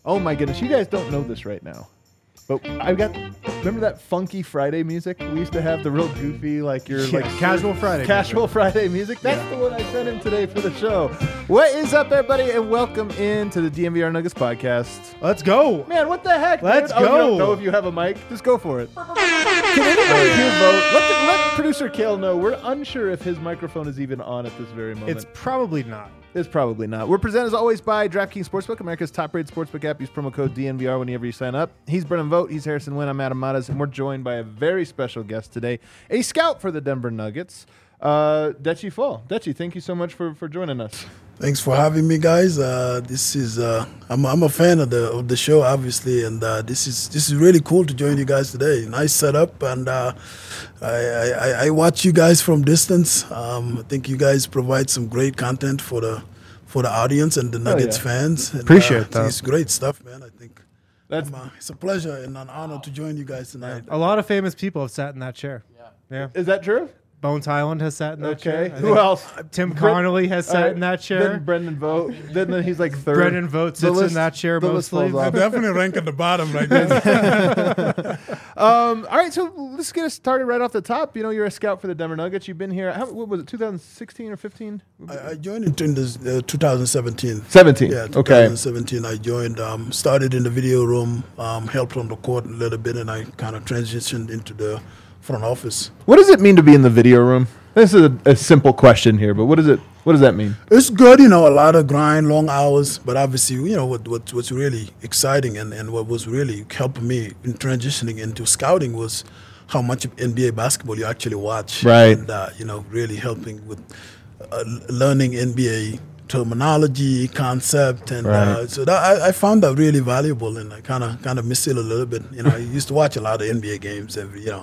Oh my goodness, you guys don't know this right now. But remember that funky Friday music we used to have, the real goofy, Casual Friday music? That's the one I sent in today for the show. What is up, everybody, and welcome into the DNVR Nuggets podcast. Let's go. Man, what the heck? Let's go. go. You don't know if you have a mic? Just go for it. Can anybody here vote? Let producer Kale know. We're unsure if his microphone is even on at this very moment. It's probably not. It's probably not. We're presented as always by DraftKings Sportsbook, America's top-rated sportsbook app. Use promo code DNVR whenever you sign up. He's Brennan Vogt. He's Harrison Wynn. I'm Adam Matas, and we're joined by a very special guest today, a scout for the Denver Nuggets, Deci Fall. Deci, thank you so much for joining us. Thanks for having me, guys. This is I'm a fan of the show, obviously, and this is really cool to join you guys today. Nice setup, and I watch you guys from distance. I think you guys provide some great content for the audience and the Nuggets fans. And, Appreciate that. It's great stuff, man. I think it's a pleasure and an honor to join you guys tonight. A lot of famous people have sat in that chair. Yeah. Is that true? Bones Highland has sat in that chair. Okay. Who else? Tim Connolly has sat in that chair. Then Brendan Vogt. Then he's like third. Brendan Vogt sits in that chair mostly. I definitely rank at the bottom right now. All right, so let's get us started right off the top. You know, you're a scout for the Denver Nuggets. You've been here, what was it, 2016 or 15? I joined in 2017. 17. Yeah, Okay. 2017 I joined, started in the video room, helped on the court a little bit, and I kind of transitioned into the front office. What does it mean to be in the video room? This is a simple question here, but what does that mean? It's good, a lot of grind, long hours, but obviously, what's really exciting and what was really helping me in transitioning into scouting was how much NBA basketball you actually watch. Right. And, really helping with learning NBA terminology, concept, and right. So that I found that really valuable, and I kind of miss it a little bit. I used to watch a lot of NBA games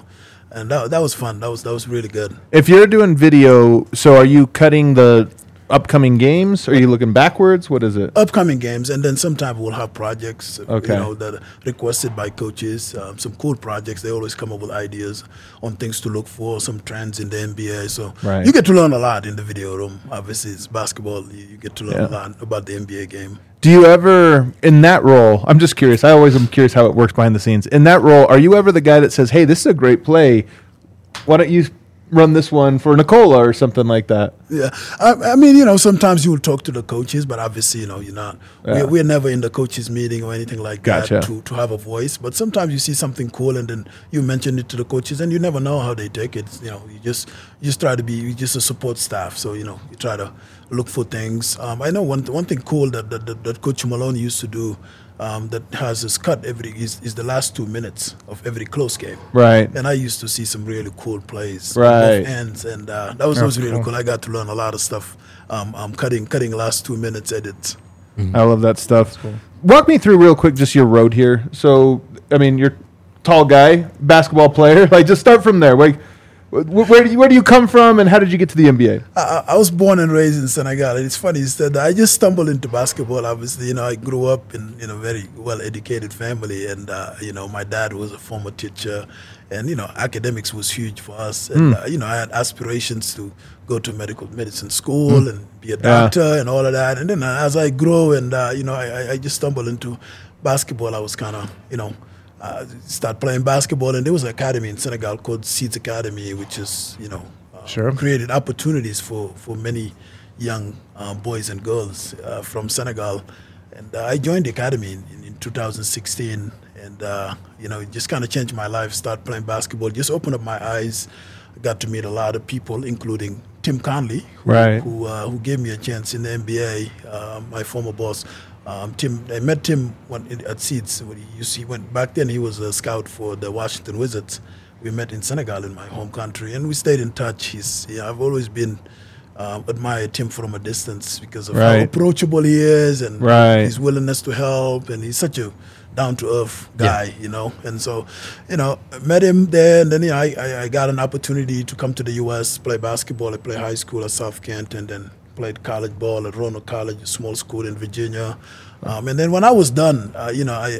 and that was fun. That was really good. If you're doing video, so are you cutting the upcoming games? Are you looking backwards? What is it? Upcoming games, and then sometimes we'll have projects, okay. That are requested by coaches. Some cool projects. They always come up with ideas on things to look for, some trends in the NBA. So right. You get to learn a lot in the video room. Obviously, it's basketball. You get to learn a lot about the NBA game. Do you ever, in that role, I'm just curious, I always am curious how it works behind the scenes. In that role, are you ever the guy that says, hey, this is a great play, why don't you run this one for Nicola or something like that? Yeah. I mean, sometimes you will talk to the coaches, but obviously, you're not. Yeah. We're never in the coaches meeting or anything like gotcha. that to have a voice. But sometimes you see something cool and then you mention it to the coaches and you never know how they take it. You just try to be just a support staff. So, you try to look for things. I know one thing cool that Coach Malone used to do that has us cut is the last 2 minutes of every close game. Right. And I used to see some really cool plays right. on both ends, and that was really cool. I got to learn a lot of stuff. Cutting last 2 minutes edits. Mm-hmm. I love that stuff. Cool. Walk me through real quick just your road here. So, I mean, you're a tall guy, basketball player. Just start from there. Where do you come from, and how did you get to the NBA? I was born and raised in Senegal. It's funny that I just stumbled into basketball. Obviously, I grew up in a very well-educated family, and my dad was a former teacher, and academics was huge for us. And I had aspirations to go to medicine school and be a doctor and all of that. And then as I grew, and I just stumbled into basketball. I was kind of start playing basketball, and there was an academy in Senegal called Seeds Academy, which is created opportunities for many young boys and girls from Senegal. And I joined the academy in 2016, and it just kind of changed my life. Start playing basketball, just opened up my eyes. I got to meet a lot of people, including Tim Connolly, who gave me a chance in the NBA. My former boss. I met Tim at Seeds. Back then he was a scout for the Washington Wizards. We met in Senegal, in my home country, and we stayed in touch. I've always been admired Tim from a distance because of how approachable he is and his willingness to help, and he's such a down-to-earth guy, And so, I met him there, and then I got an opportunity to come to the U.S., play basketball. I played high school at South Kent, and then played college ball at Roanoke College, a small school in Virginia. And then when I was done, I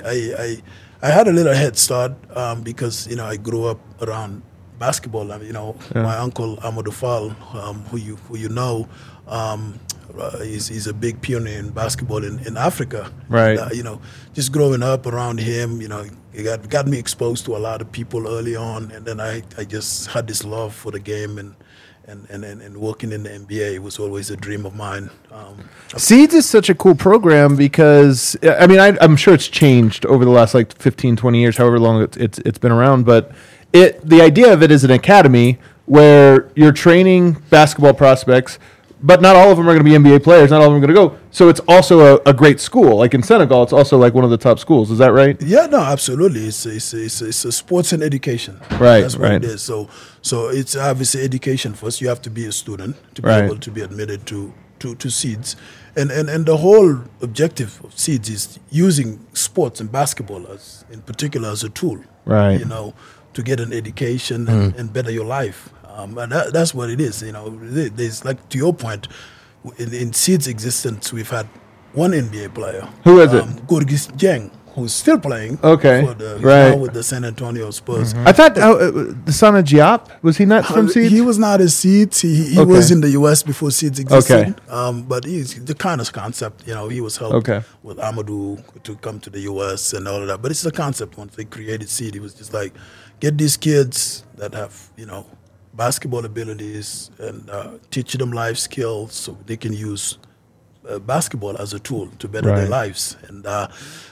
had a little head start because, I grew up around basketball. My uncle Amadou Fall, who you know, He's a big pioneer in basketball in Africa. Right. And, just growing up around him, it got me exposed to a lot of people early on, and then I just had this love for the game and working in the NBA was always a dream of mine. Seeds is such a cool program because, I mean, I'm sure it's changed over the last 15, 20 years, however long it's been around, but the idea of it is an academy where you're training basketball prospects, but not all of them are going to be NBA players. Not all of them are going to go. So it's also a great school. Like in Senegal, it's also one of the top schools. Is that right? Yeah, no, absolutely. It's a sports and education. Right, that's what it is. So it's obviously education first. You have to be a student to be able to be admitted to Seeds, and the whole objective of Seeds is using sports and basketball in particular as a tool. Right. To get an education and better your life. And that's what it is. There's, to your point, in Seeds' existence, we've had one NBA player. Who is it? Gorgui Dieng, who's still playing. Okay, he's now with the San Antonio Spurs. I thought the son of Diop, was he not from Seeds? He was not a Seeds. He was in the U.S. before Seeds existed. Okay. But he's the kind of concept, he was helped with Amadou to come to the U.S. and all of that. But it's the concept. Once they created Seed, he was just like, get these kids that have, basketball abilities and teach them life skills so they can use basketball as a tool to better their lives. And I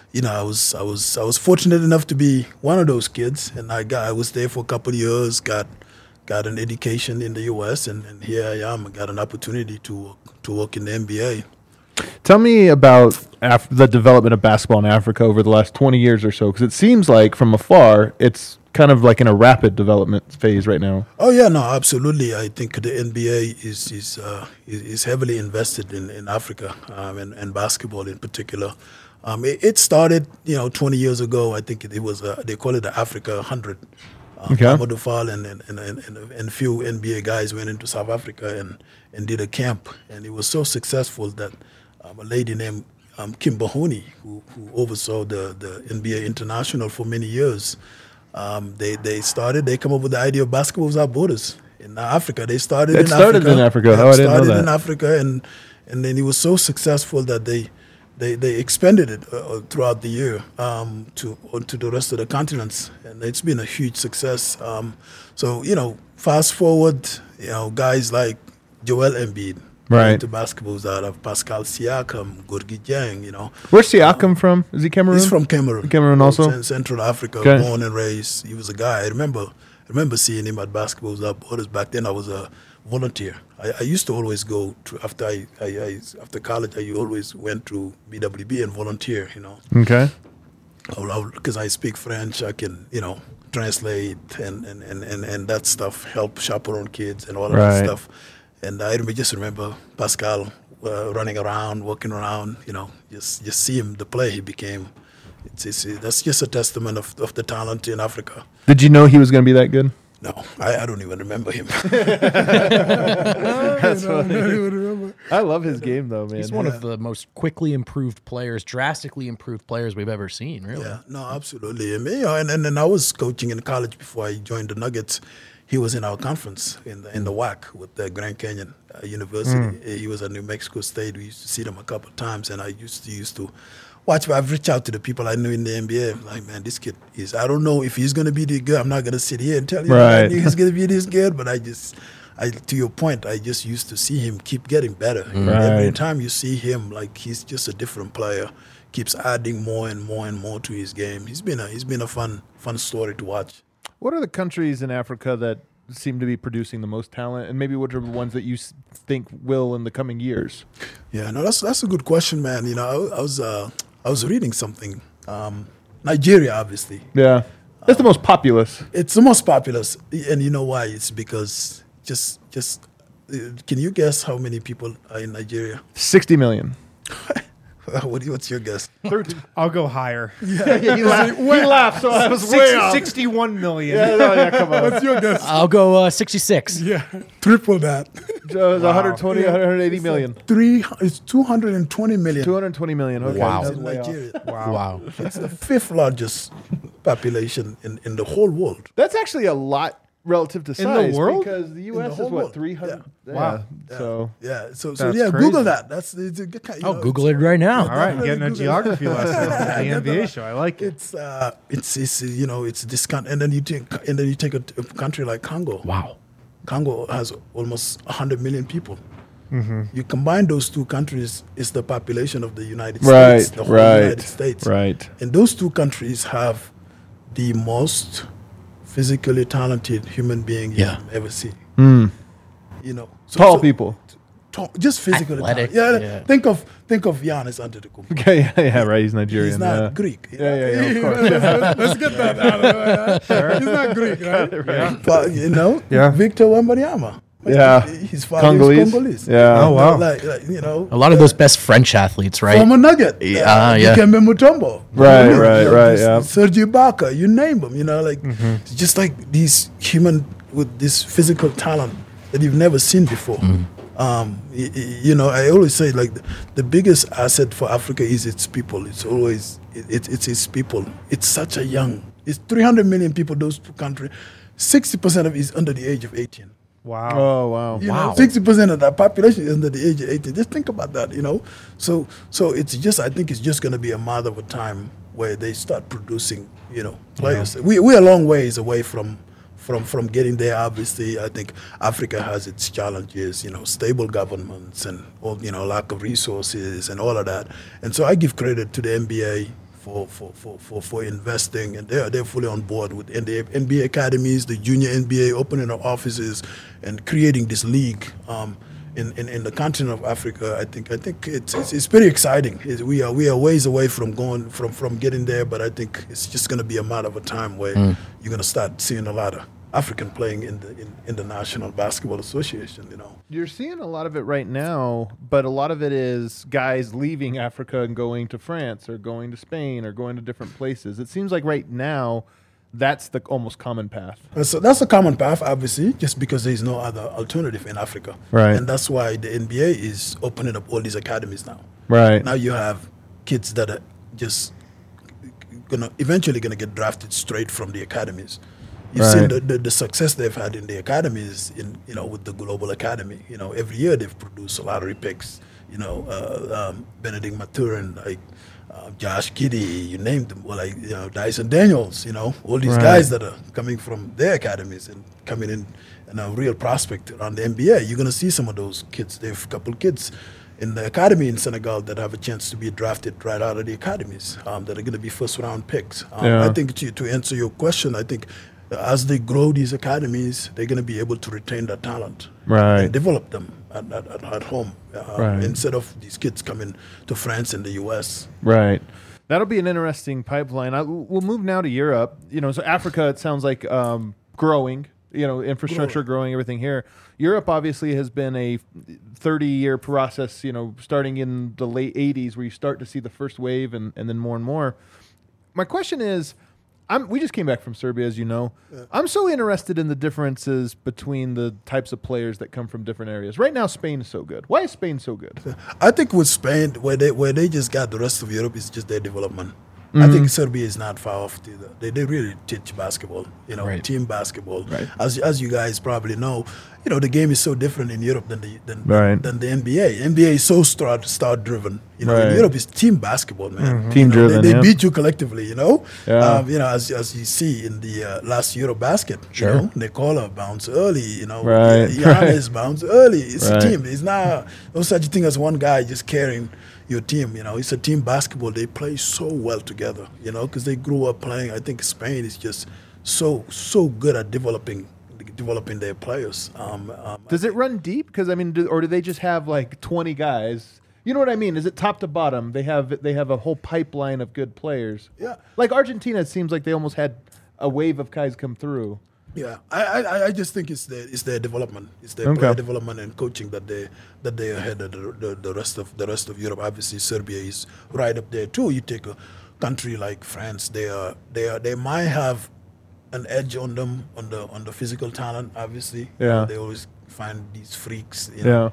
was fortunate enough to be one of those kids, and I was there for a couple of years, got an education in the U.S., and here I am. I got an opportunity to work in the NBA. Tell me about the development of basketball in Africa over the last 20 years or so, because it seems like from afar it's kind of in a rapid development phase right now. Oh yeah, no, absolutely. I think the NBA is heavily invested in Africa and basketball in particular. It started 20 years ago. I think it was they call it the Africa 100. Amadou Fall and a few NBA guys went into South Africa and did a camp, and it was so successful that a lady named Kim Bahuni, who oversaw the NBA International for many years, they come up with the idea of basketball without borders in Africa. They started in Africa. It started in Africa. Yeah, I didn't know that. Started in Africa, and then it was so successful that they expanded it throughout the year to the rest of the continents, and it's been a huge success. So fast forward, guys like Joel Embiid, to basketballs out of Pascal Siakam, Gorgui Dieng, Where's Siakam from? Is he Cameroon? He's from Cameroon. Cameroon also? Central Africa, born and raised. He was a guy. I remember seeing him at Basketball Without Borders. Back then I was a volunteer. I used to always go to, after college, I always went to BWB and volunteer, Okay. Because I speak French, I can, translate and that stuff, help chaperone kids and all of that stuff. And I just remember Pascal running around, walking around, just see him, the player he became. That's just a testament of the talent in Africa. Did you know he was going to be that good? No, I don't even remember him. That's funny. I love his game, though, man. He's one of the most quickly improved players, drastically improved players we've ever seen, really. Yeah, no, absolutely. And I was coaching in college before I joined the Nuggets. He was in our conference in the WAC with the Grand Canyon University. He was at New Mexico State. We used to see them a couple of times, and I used to watch. I've reached out to the people I knew in the NBA. I'm like, man, this kid is. I don't know if he's going to be this good. I'm not going to sit here and tell you I knew he's going to be this good. But to your point, I just used to see him keep getting better. Every time you see him, he's just a different player. Keeps adding more and more and more to his game. He's been a fun story to watch. What are the countries in Africa that seem to be producing the most talent, and maybe what are the ones that you think will in the coming years? Yeah, no, that's a good question, man. I was reading something. Nigeria, obviously. Yeah, it's the most populous. It's the most populous, and you know why? It's because just can you guess how many people are in Nigeria? 60 million. What's your guess? I'll go higher. Yeah, he laughed, so I was way off. 61 million. Yeah, come on. What's your guess? I'll go 66. Yeah, triple that. So it's 120, 180 million. It's 220 million. 220 million. Okay. Wow. In Nigeria. Wow. It's the fifth largest population in the whole world. That's actually a lot relative to the size world? because the U.S. whole is what world. 300. Yeah. Wow. So So That's yeah, crazy. Google that. That's it's a good kind. You I'll know, Google it it's- right now. All right, Definitely getting a Google geography it. lesson on the NBA show. I like it. It's you know it's this and then you take a country like Congo. Wow. Congo has almost 100 million people. You combine those two countries, it's the population of the United States, the whole United States. Right. And those two countries have the most physically talented human being Yeah. you've ever seen. You know, Tall people. just physically Athletic, talented. yeah. Think of Giannis Antetokounmpo. Okay, yeah, right. He's Nigerian. He's not yeah. Greek. Yeah, of course. Let's get that out of the way. He's not Greek, right? Yeah. But you know, Yeah. Victor Wembanyama. Yeah. His father Congolese. is Congolese. Yeah. Oh, You know, wow. like you know, A lot of those best French athletes, right? former Nugget. Yeah, yeah. Dikembe Mutombo. Right, You know, right, you know, right, this- yeah. Serge Ibaka, you name them. You know, like it's just like these human with this physical talent that you've never seen before. You know, I always say like the biggest asset for Africa is its people. It's always it's its people. It's such a young. It's 300 million people. Those two countries, 60% of it is under the age of 18. Wow. Oh wow. You Wow. know, 60% of that population is under the age of 18. Just think about that, you know. So it's just, I think it's just going to be a matter of a time where they start producing, you know, players. We're a long ways away from getting there. Obviously, I think Africa has its challenges, you know, stable governments and all, you know, lack of resources and all of that. And so I give credit to the NBA for investing, and they're fully on board with and the NBA academies, the junior NBA, opening up offices, and creating this league in the continent of Africa. I think it's pretty exciting. We are ways away from getting there, but I think it's just going to be a matter of a time where you're going to start seeing a lot of African playing in the National Basketball Association. You know. You're seeing a lot of it right now, but a lot of it is guys leaving Africa and going to France or going to Spain or going to different places. It seems like right now that's the almost common path. So that's a common path, obviously, just because there is no other alternative in Africa. Right. And that's why the NBA is opening up all these academies now. Right. Now you have kids that are just eventually gonna get drafted straight from the academies. You've seen the success they've had in the academies, with the Global Academy. You know, every year they've produced lottery picks. You know, Benedict Maturin, like Josh Giddey, you named them. Well, like Dyson Daniels. You know, all these guys that are coming from their academies and coming in and a real prospect around the NBA. You're gonna see some of those kids. There's a couple kids in the academy in Senegal that have a chance to be drafted right out of the academies that are going to be first-round picks. I think to answer your question, I think as they grow these academies, they're going to be able to retain that talent and develop them at home instead of these kids coming to France and the U.S. Right. That'll be an interesting pipeline. We'll move now to Europe. So Africa, it sounds like growing. Infrastructure growing, everything here. Europe obviously has been a 30-year process, starting in the late 80s where you start to see the first wave and then more and more. My question is, we just came back from Serbia, as you know. Yeah. I'm so interested in the differences between the types of players that come from different areas. Right now, Spain is so good. Why is Spain so good? I think with Spain, where they just got the rest of Europe, is just their development. I think Serbia is not far off either. They really teach basketball, team basketball. Right. As you guys probably know, the game is so different in Europe than the NBA. NBA is so star driven. In Europe it's team basketball, man. Team driven. They beat you collectively. Yeah. As you see in the last Eurobasket, sure. Nikola bounce early. Right. Giannis bounce early. It's a team. It's not no such thing as one guy just carrying your team. It's a team basketball. They play so well together, because they grew up playing. I think Spain is just so good at developing their players. Does it run deep? Because or do they just have like 20 guys? You know what I mean? Is it top to bottom? They have a whole pipeline of good players. Yeah. Like Argentina, it seems like they almost had a wave of guys come through. Yeah, I just think it's their development, it's their player development and coaching that they are ahead of the rest of Europe. Obviously, Serbia is right up there too. You take a country like France, they might have an edge on them on the physical talent. Obviously, they always find these freaks,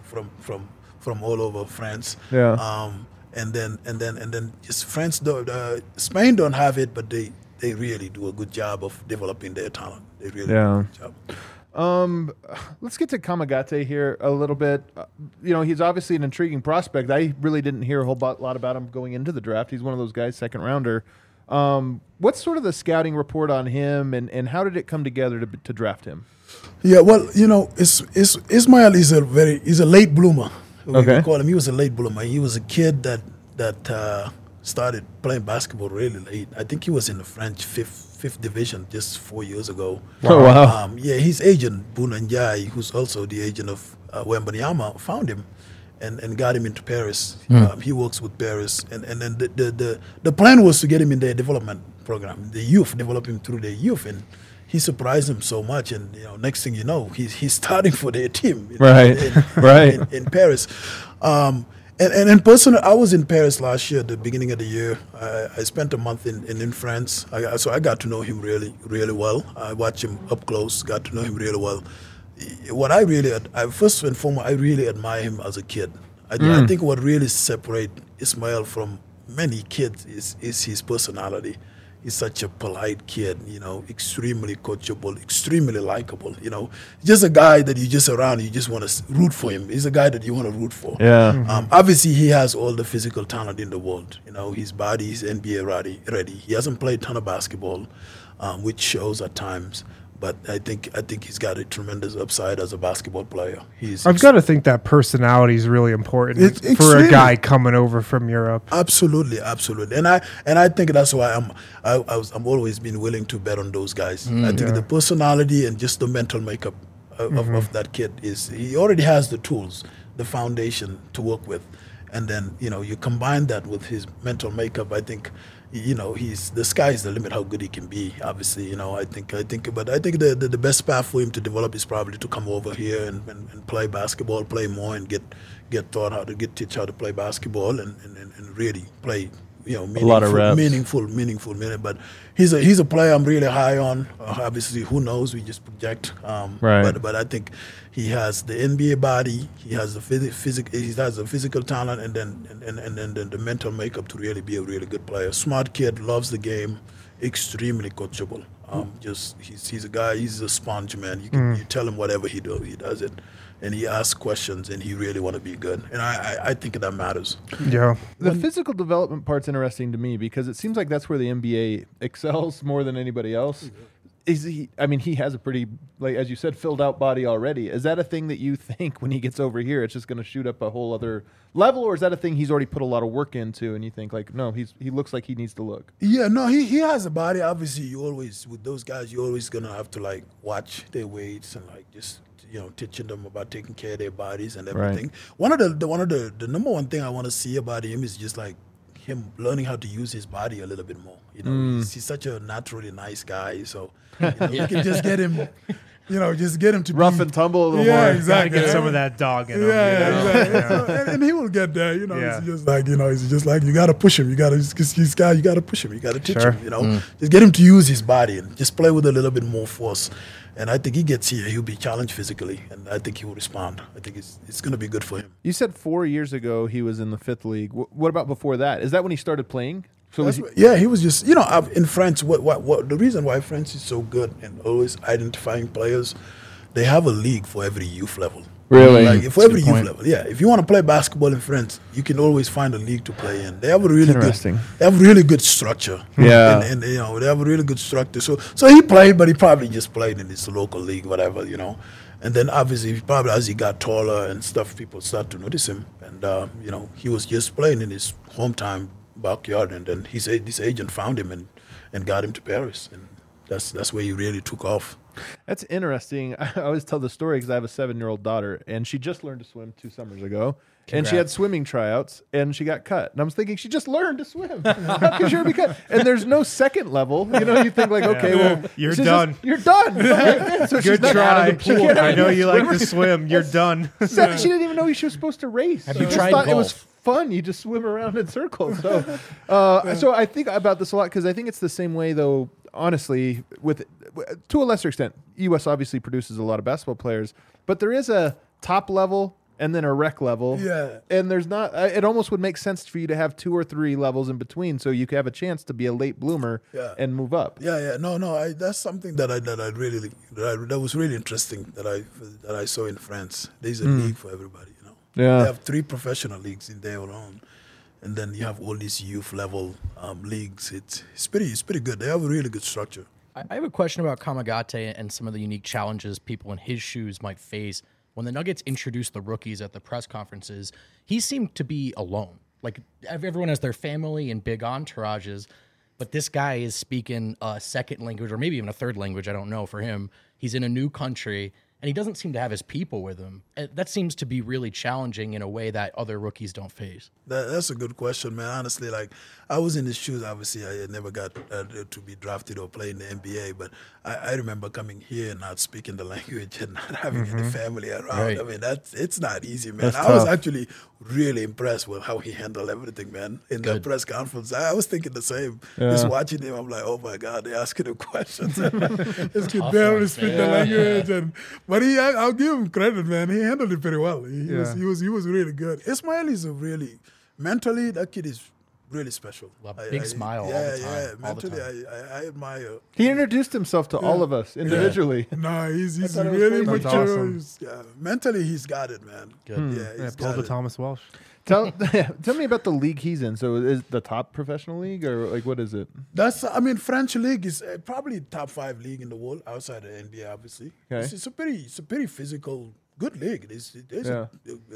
from all over France. Yeah. And then just France, Spain don't have it, but they really do a good job of developing their talent. They really Yeah. do a good job. Let's get to Kamagate here a little bit. He's obviously an intriguing prospect. I really didn't hear a whole lot about him going into the draft. He's one of those guys, second rounder. What's sort of the scouting report on him, and how did it come together to draft him? Yeah, well, Ismail is a late bloomer. We call him. He was a late bloomer. He was a kid that started playing basketball really late. I think he was in the French fifth division just 4 years ago. Oh, wow. His agent, Bunanjai, who's also the agent of Wembanyama, found him and got him into Paris. He works with Paris. And then the plan was to get him in their development program, the youth, develop him through their youth. And he surprised him so much. And, next thing you know, he's starting for their team in Paris. And personally, I was in Paris last year, at the beginning of the year. I spent a month in France, so I got to know him really, really well. I watched him up close, got to know him really well. First and foremost, I really admire him as a kid. I think what really separates Ismail from many kids is his personality. He's such a polite kid, extremely coachable, extremely likable, just a guy that you just around, you just want to root for him. He's a guy that you want to root for. Yeah. Obviously, he has all the physical talent in the world. His body is NBA ready. He hasn't played a ton of basketball, which shows at times. But I think he's got a tremendous upside as a basketball player. I've got to think that personality is really important for a guy coming over from Europe. Absolutely, and I think that's why I'm always been willing to bet on those guys. I think the personality and just the mental makeup of that kid he already has the tools, the foundation to work with, and then you combine that with his mental makeup. I think. The sky is the limit how good he can be. Obviously, I think the best path for him to develop is probably to come over here and play basketball, play more, and get taught how to teach how to play basketball and really play. A lot of reps. Meaningful minute. But he's a player I'm really high on. Obviously, who knows? We just project. Right. But I think he has the NBA body. He has the He has the physical talent, and then the mental makeup to really be a really good player. Smart kid, loves the game, extremely coachable. He's a guy. He's a sponge, man. You tell him whatever he does it. And he asks questions, and he really want to be good. And I think that matters. Yeah. The physical development part's interesting to me because it seems like that's where the NBA excels more than anybody else. He has a pretty, like as you said, filled out body already. Is that a thing that you think when he gets over here, it's just going to shoot up a whole other level, or is that a thing he's already put a lot of work into, and you think like, no, he looks like he needs to look? Yeah, no, he has a body. Obviously, you always with those guys, you're always gonna have to like watch their weights and like just. Teaching them about taking care of their bodies and everything. Right. One of the number one thing I want to see about him is just like him learning how to use his body a little bit more. He's such a naturally nice guy, so you can just get him. Just get him to rough and tumble a little more. Yeah, exactly. Get some of that dog in him. Exactly. And he will get there. It's just like you got to push him. You got to push him. You got to teach him. Just get him to use his body and just play with a little bit more force. And I think he gets here, he'll be challenged physically, and I think he will respond. I think it's going to be good for him. You said 4 years ago he was in the fifth league. What about before that? Is that when he started playing? So he was just, in France, what the reason why France is so good and always identifying players, they have a league for every youth level. Really? Like for every youth level, yeah. If you want to play basketball in France, you can always find a league to play in. They have a really good structure. Yeah. And they have a really good structure. So he played, but he probably just played in his local league, whatever, And then obviously, probably as he got taller and stuff, people start to notice him. And he was just playing in his hometown backyard, and then this agent found him and got him to Paris, and that's where he really took off. That's interesting. I always tell the story because I have a 7-year-old daughter, and she just learned to swim 2 summers ago. Congrats. And she had swimming tryouts, and she got cut. And I was thinking, she just learned to swim. How could she be cut? And there's no second level. You think like, okay, well, you're done. You're done. Okay. So good try. I know you like to swim. You're done. She didn't even know she was supposed to race. Have you tried golf? It was fun. You just swim around in circles. So, so I think about this a lot because I think it's the same way, though. Honestly, to a lesser extent, U.S. obviously produces a lot of basketball players, but there is a top level and then a rec level. Yeah. And there's not, it almost would make sense for you to have 2 or 3 levels in between so you could have a chance to be a late bloomer and move up. Yeah. No. That's something that that was really interesting that I saw in France. There's a league for everybody, you know. Yeah. They have 3 professional leagues in there alone. And then you have all these youth level leagues. It's pretty good. They have a really good structure. I have a question about Kamagate and some of the unique challenges people in his shoes might face. When the Nuggets introduced the rookies at the press conferences, he seemed to be alone. Like, everyone has their family and big entourages, but this guy is speaking a second language or maybe even a third language, I don't know, for him. He's in a new country, and he doesn't seem to have his people with him. That seems to be really challenging in a way that other rookies don't face. That's a good question, man. Honestly, like, I was in his shoes. Obviously, I never got to be drafted or play in the NBA, but I remember coming here and not speaking the language and not having any family around. Right. I mean, it's not easy, man. That's I was tough. actually really impressed with how he handled everything, man. In the press conference, I was thinking the same. Just watching him, I'm like, oh my God, they're asking him questions. This kid barely speak the language, but I'll give him credit, man. He handled it very well. He was really good. Ismail is mentally, that kid is really special. Big smile all the time. Mentally, I admire. He introduced himself to all of us individually. No, he's thought it was really crazy. mature. Awesome. Mentally, he's got it, man. Good. Yeah, he's Pull got the it. Thomas Welsh. Tell me about the league he's in. So is the top professional league or like what is it? French league is probably top 5 league in the world outside of the NBA, obviously. Okay. It's a pretty physical, good league. There's a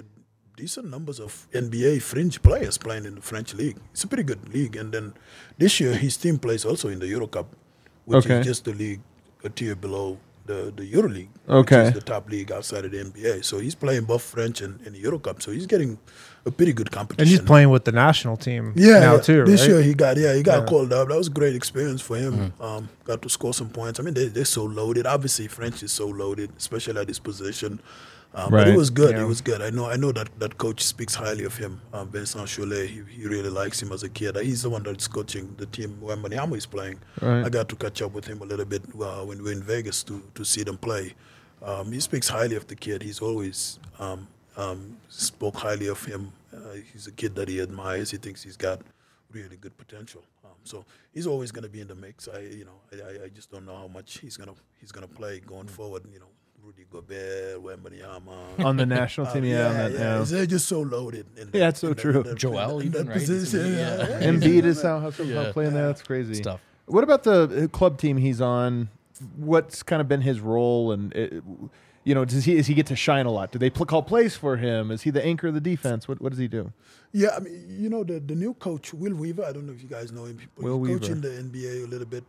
decent numbers of NBA fringe players playing in the French league. It's a pretty good league. And then this year, his team plays also in the Euro Cup, which is just the league a tier below the Euro League, which is the top league outside of the NBA. So he's playing both French and the Euro Cup. So he's getting a pretty good competition. And he's playing with the national team now too, This right? year he got called up. That was a great experience for him. Got to score some points. I mean, they're so loaded. Obviously, French is so loaded, especially at his position. But it was good. Yeah. It was good. I know that coach speaks highly of him. Vincent Cholet, he really likes him as a kid. He's the one that's coaching the team when Wembanyama is playing. Right. I got to catch up with him a little bit when we were in Vegas to see them play. He speaks highly of the kid. He's always spoke highly of him. He's a kid that he admires. He thinks he's got really good potential. So he's always going to be in the mix. I just don't know how much he's gonna play going forward. Rudy Gobert, Wembanyama. On the national team, They're just so loaded. That's so true. Joel even, right? Position, Embiid is somehow playing there. That's crazy. Stuff. What about the club team he's on? What's kind of been his role, and does he get to shine a lot? Do they call plays for him? Is he the anchor of the defense? What does he do? Yeah, I mean, the new coach, Will Weaver. I don't know if you guys know him. He's coaching the NBA a little bit.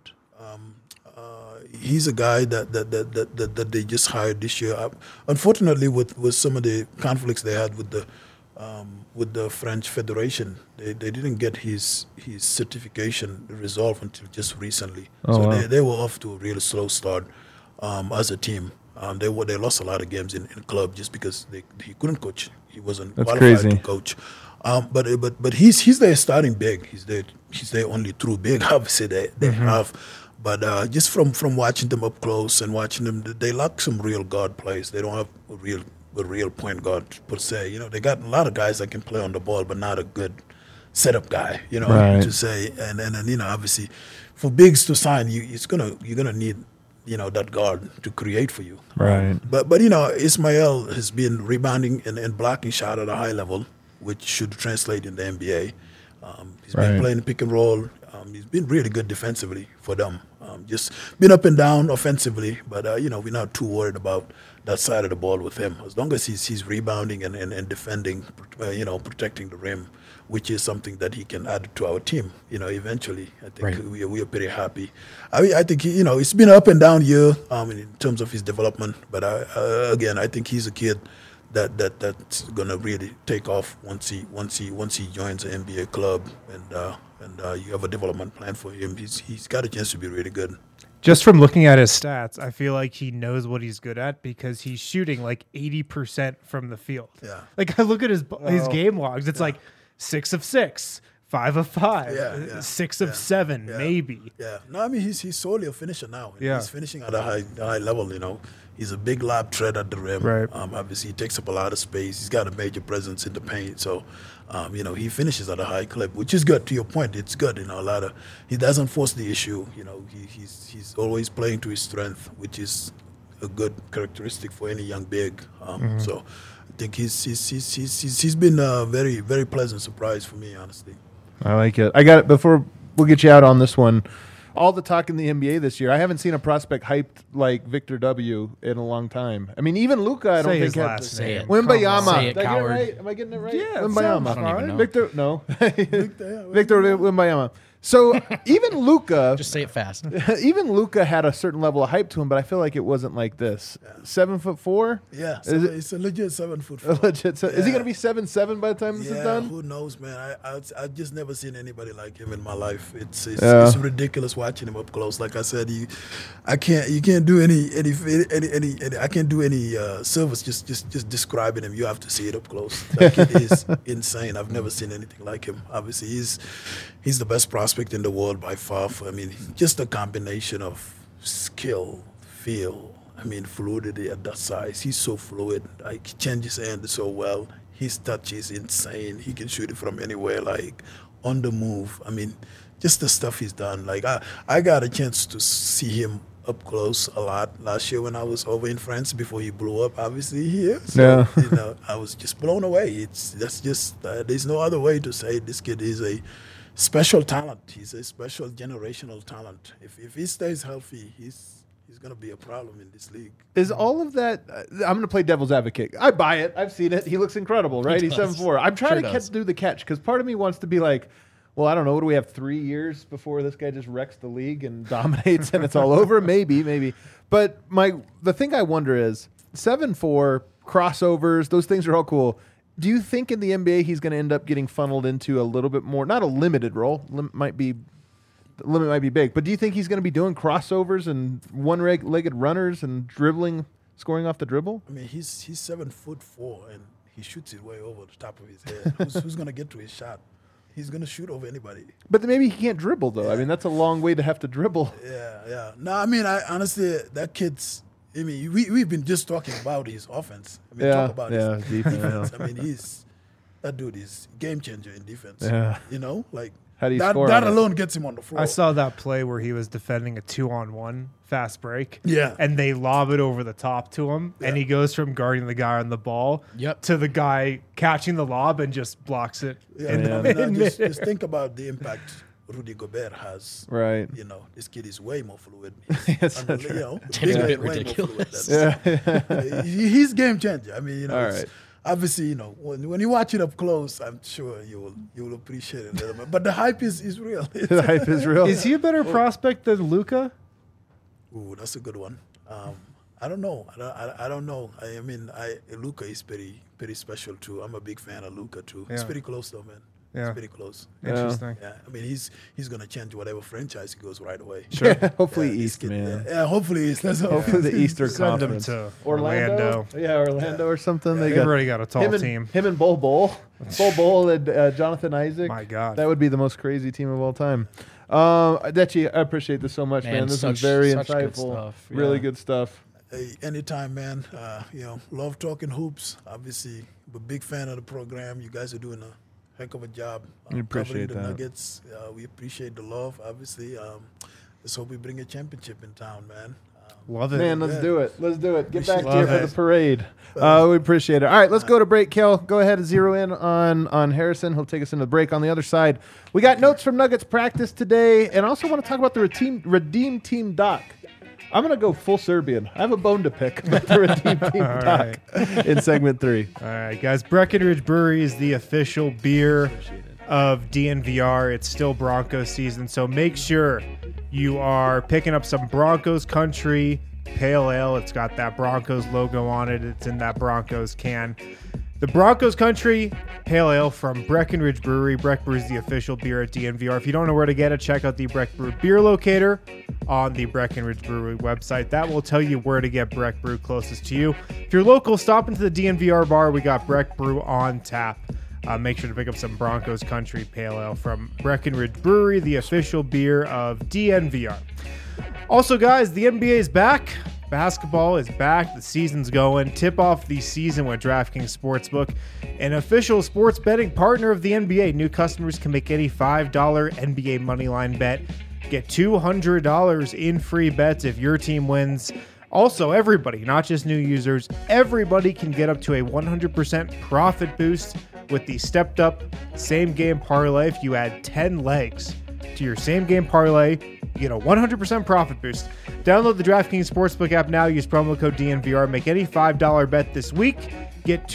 He's a guy that they just hired this year. Unfortunately, with some of the conflicts they had with the French Federation, they didn't get his certification resolved until just recently. They were off to a really slow start as a team. They lost a lot of games in club just because he couldn't coach. He wasn't qualified to coach. But he's there starting big. He's their only true big. Obviously they have. But just from watching them up close and watching them, they lack some real guard plays. They don't have a real point guard per se. They got a lot of guys that can play on the ball, but not a good setup guy. To say. And obviously, for bigs to sign, you're gonna need that guard to create for you. Right. But Ismail has been rebounding and blocking shot at a high level, which should translate in the NBA. He's been playing pick and roll. He's been really good defensively for them. Just been up and down offensively, but we're not too worried about that side of the ball with him. As long as he's rebounding and defending, protecting the rim, which is something that he can add to our team. Eventually, I think we are pretty happy. I think it's been an up and down year in terms of his development, but again, I think he's a kid that's gonna really take off once he joins an NBA club and you have a development plan for him. He's got a chance to be really good. Just from looking at his stats, I feel like he knows what he's good at because he's shooting like 80% from the field. Yeah. Like I look at his game logs, it's like 6 of 6, 5 of 5, Yeah, 6 of 7, maybe. Yeah. No, I mean, he's solely a finisher now. Yeah. He's finishing at a high level, you know. He's a big lob threat at the rim. Right. Obviously, he takes up a lot of space. He's got a major presence in the paint. So, you know, he finishes at a high clip, which is good. To your point, it's good. You know, he doesn't force the issue. You know, he's always playing to his strength, which is a good characteristic for any young big. So, I think he's been a very, very pleasant surprise for me, honestly. I like it. I got it. Before we'll get you out on this one, all the talk in the NBA this year, I haven't seen a prospect hyped like Victor W. in a long time. I mean, even Luka, I don't Say think his had last Say it. Wimbayama. Say it, Did I get it coward. right? Am I getting it right? Yeah, it Wimbayama. sounds I don't even know. Victor, no. Victor Wimbayama. So even Luka, Just say it fast. even Luka had a certain level of hype to him, but I feel like it wasn't like this. 7'4"? Yeah, Is it- it's a legit 7'4". Legit. Is he going to be 7'7" by the time this is Yeah, done? who knows, man? I've just never seen anybody like him in my life. It's Yeah. it's ridiculous watching him up close. Like I said, you can't do any I can't do any service just describing him. You have to see it up close. That kid is insane. I've never seen anything like him. Obviously, he's the best prospect in the world by far. I mean, just a combination of skill, feel. I mean, fluidity at that size. He's so fluid. Like, he changes hand so well. His touch is insane. He can shoot it from anywhere, like on the move. I mean, just the stuff he's done. Like, I got a chance to see him up close a lot last year when I was over in France before he blew up, obviously, here. So, Yeah. you know, I was just blown away. That's just, there's no other way to say it. This kid is a special talent. He's a special generational talent. If he stays healthy, he's going to be a problem in this league. Is all of that? I'm going to play devil's advocate. I buy it. I've seen it. He looks incredible, right? He's does. 7'4". I'm trying Sure to does. do the catch because part of me wants to be like, well, I don't know. What do we have? 3 years before this guy just wrecks the league and dominates and it's all over? Maybe. But the thing I wonder is 7'4", crossovers. Those things are all cool. Do you think in the NBA he's going to end up getting funneled into a little bit more, not a limited role? The limit might be big, but do you think he's going to be doing crossovers and one-legged runners and dribbling, scoring off the dribble? I mean, he's 7'4" and he shoots it way over the top of his head. Who's going to get to his shot? He's going to shoot over anybody. But maybe he can't dribble though. I mean, that's a long way to have to dribble. Yeah. No, I mean, I honestly, that kid's. I mean, we've been just talking about his offense. I mean, talk about his defense. I mean, that dude is game changer in defense. Yeah. You know, like How do you that score that on it? alone gets him on the floor. I saw that play where he was defending a 2-on-1 fast break. Yeah. And they lob it over the top to him. And he goes from guarding the guy on the ball to the guy catching the lob and just blocks it. Yeah, in I the mean, mid. just think about the impact Rudy Gobert has. Right. You know, this kid is way more fluid. Yes, You that's know, It's bigger a bit and way more ridiculous. fluid. He's game changer. I mean, you know, All it's- right. obviously, you know, when you watch it up close, I'm sure you will appreciate it a little bit. But the hype is real. The hype is real. Is he a better prospect than Luka? Ooh, that's a good one. I don't know. I don't know. I mean, Luka is pretty special too. I'm a big fan of Luka too. It's Yeah. pretty close though, man. Yeah. It's pretty close. Interesting. Yeah, I mean, he's gonna change whatever franchise he goes right away. Sure. Hopefully Yeah, this East, kid- man. Yeah, hopefully East. That's Hopefully the Eastern Send him Conference. to Orlando. Yeah, Orlando or something. They've already got a tall him and, team. Him and Bol and Jonathan Isaac. My God. That would be the most crazy team of all time. Dechi, I appreciate this so much, man. Man, This such- was very such good insightful. stuff. Really Yeah. good stuff. Hey, anytime, man. You know, love talking hoops. Obviously, I'm a big fan of the program. You guys are doing a heck of a job. We appreciate covering the that. Nuggets. We appreciate the love. Obviously, let's hope we bring a championship in town, man. Love it. Man, let's do it. Let's do it. Get back Appreciate here it. for the parade. We appreciate it. All right, let's go to break. Kel, go ahead and zero in on Harrison. He'll take us into the break. On the other side, we got notes from Nuggets practice today, and also want to talk about the Redeem Team doc. I'm going to go full Serbian. I have a bone to pick about the Redeem Team doc in segment 3. All right, guys. Breckenridge Brewery is the official beer of DNVR. It's still Broncos season, so make sure you are picking up some Broncos Country Pale Ale. It's got that Broncos logo on it. It's in that Broncos can. The Broncos Country Pale Ale from Breckenridge Brewery. Breck Brew is the official beer at DNVR. If you don't know where to get it, check out the Breck Brew beer locator on the Breckenridge Brewery website. That will tell you where to get Breck Brew closest to you. If you're local, stop into the DNVR bar. We got Breck Brew on tap. make sure to pick up some Broncos Country Pale Ale from Breckenridge Brewery, the official beer of DNVR. Also, guys, the NBA is back. Basketball is back. The season's going. Tip off the season with DraftKings Sportsbook, an official sports betting partner of the NBA. New customers can make any $5 NBA moneyline bet. Get $200 in free bets if your team wins. Also, everybody, not just new users, everybody can get up to a 100% profit boost with the stepped up same game parlay. If you add 10 legs to your same game parlay, you get a 100% profit boost. Download the DraftKings Sportsbook app now. Use promo code DNVR. Make any $5 bet this week. Get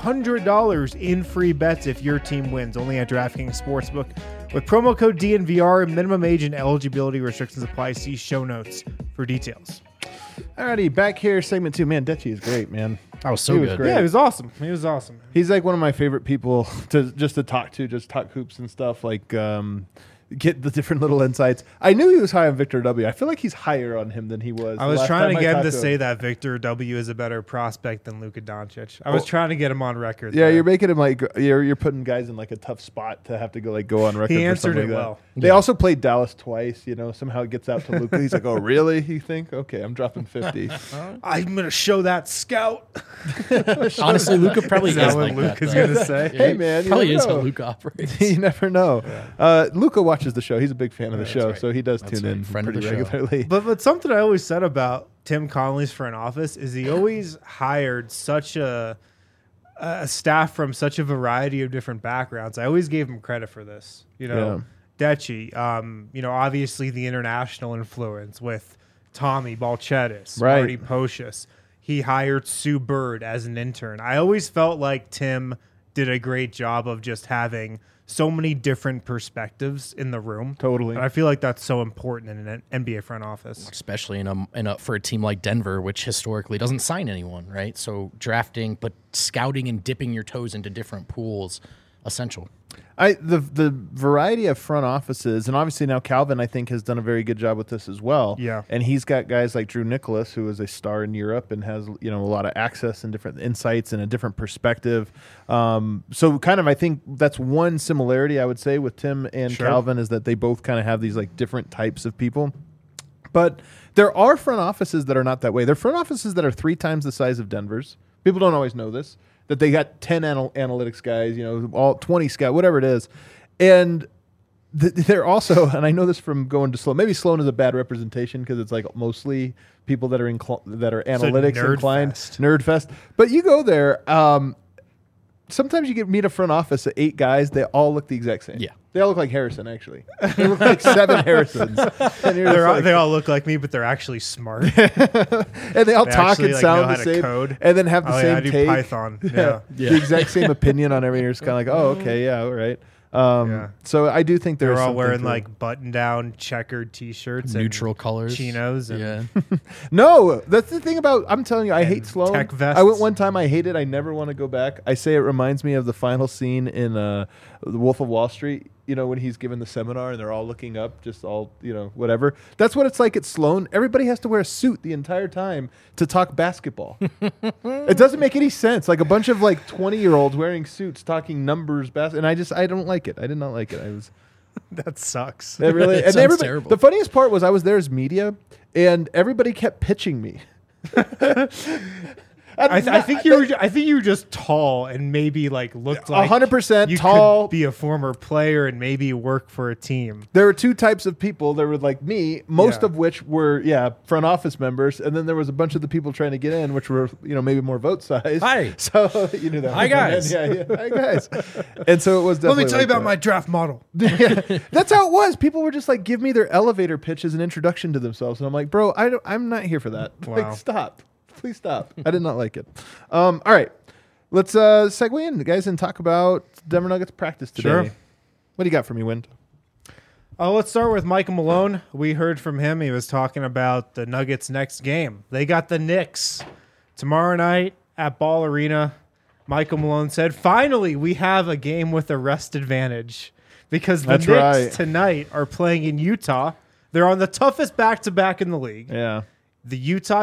$200 in free bets if your team wins. Only at DraftKings Sportsbook. With promo code DNVR, minimum age and eligibility restrictions apply. See show notes for details. Alrighty, back here, segment 2. Man, Deci is great, man. That was so He was good. great. Yeah, he was awesome. He was awesome. He's like one of my favorite people to talk to, just talk hoops and stuff. Like, get the different little insights. I knew he was high on Victor W. I feel like he's higher on him than he was. I was trying to get him to say that Victor W is a better prospect than Luka Doncic. I was trying to get him on record. Yeah, there. you're making him like you're putting guys in like a tough spot to have to go on record. He for answered something it like well. That. They also played Dallas twice. Somehow it gets out to Luka. He's like, "Oh, really? You think? Okay, I'm dropping 50." I'm gonna show that scout. Honestly, Luka probably Is that is what like Luka's that. gonna say? Hey, man, you probably never is how know. Luka operates. You never know. Luka watches the show. He's a big fan of the show, right. so he does That's tune right. in Friend of pretty the show. regularly. But something I always said about Tim Connolly's front office is he always hired such a staff from such a variety of different backgrounds. I always gave him credit for this. Deci, obviously the international influence with Tommy Balchetis, Right. Marty Pocious. He hired Sue Bird as an intern. I always felt like Tim did a great job of just having so many different perspectives in the room. Totally. And I feel like that's so important in an NBA front office. Especially for a team like Denver, which historically doesn't sign anyone, right? So drafting, but scouting and dipping your toes into different pools, essential. The variety of front offices, and obviously now Calvin, I think, has done a very good job with this as well. Yeah. And he's got guys like Drew Nicholas, who is a star in Europe and has a lot of access and different insights and a different perspective. So kind of, I think that's one similarity I would say with Tim and Sure. Calvin is that they both kind of have these like different types of people. But there are front offices that are not that way. There are front offices that are 3 times the size of Denver's. People don't always know this. That they got 10 analytics guys, all 20 scout, whatever it is. And they're also, and I know this from going to Sloan, maybe Sloan is a bad representation because it's like mostly people that are analytics nerd inclined. fest. Nerd fest. But you go there, sometimes you meet a front office of 8 guys, they all look the exact same. Yeah. They all look like Harrison, actually. They look like 7 Harrisons. And you're just like, They all look like me, but they're actually smart. and they all They talk actually, and know sound how the to same, code. and then have the same I do take. Python. Yeah. The exact same opinion on everything. You're just kind of like, oh, okay, yeah, all right. Yeah. So I do think They're there's all wearing like button-down checkered T-shirts, Neutral and colors. chinos, and Yeah. No, that's the thing about. I'm telling you, I hate Sloan. tech vests. I went one time. I hate it. I never want to go back. I say it reminds me of the final scene in The Wolf of Wall Street. When he's giving the seminar and they're all looking up, just all whatever. That's what it's like at Sloan. Everybody has to wear a suit the entire time to talk basketball. It doesn't make any sense. Like a bunch of 20-year-olds wearing suits talking numbers, and I don't like it. I did not like it. I was. that sucks. It really, It and sounds everybody, terrible. the funniest part was I was there as media, and everybody kept pitching me. I think you were just tall and maybe looked like 100% you tall. could be a former player and maybe work for a team. There were 2 types of people. There were like me, most Yeah. of which were front office members, and then there was a bunch of the people trying to get in, which were maybe more vote size. Hi. So you knew that. Hi, guys. Yeah. Hi guys. And so it was definitely. like that. my draft model. That's how it was. People were just like, give me their elevator pitch as an introduction to themselves, and I'm like, bro, I'm not here for that. Wow. Like, stop. Please stop. I did not like it. All right. Let's segue in, guys, and talk about Denver Nuggets practice today. Sure. What do you got for me, Wind? Let's start with Michael Malone. We heard from him. He was talking about the Nuggets' next game. They got the Knicks tomorrow night at Ball Arena. Michael Malone said, finally, we have a game with a rest advantage because the That's Knicks right. tonight are playing in Utah. They're on the toughest back-to-back in the league. Yeah. The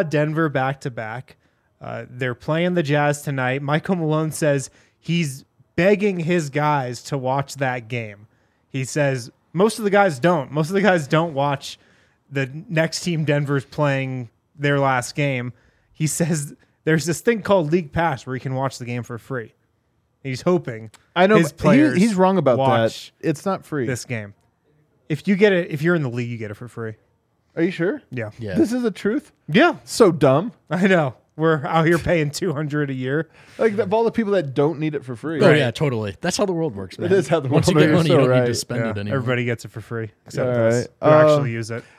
Utah-Denver back-to-back. They're playing the Jazz tonight. Michael Malone says he's begging his guys to watch that game. He says most of the guys don't. Most of the guys don't watch the next team Denver's playing their last game. He says there's this thing called League Pass where you can watch the game for free. He's hoping I know his but players he's wrong about that. watch It's not free. this game. If you get it, if you're in the league, you get it for free. Are you sure? Yeah. Yeah. This is the truth? Yeah. So dumb. I know. We're out here paying $200 a year. Like of all the people that don't need it for free. Oh yeah, totally. That's how the world works, man. is how the Once world you get works, money, you so don't need right. to spend Yeah, it anymore. everybody gets it for free except All us. right. We actually use it.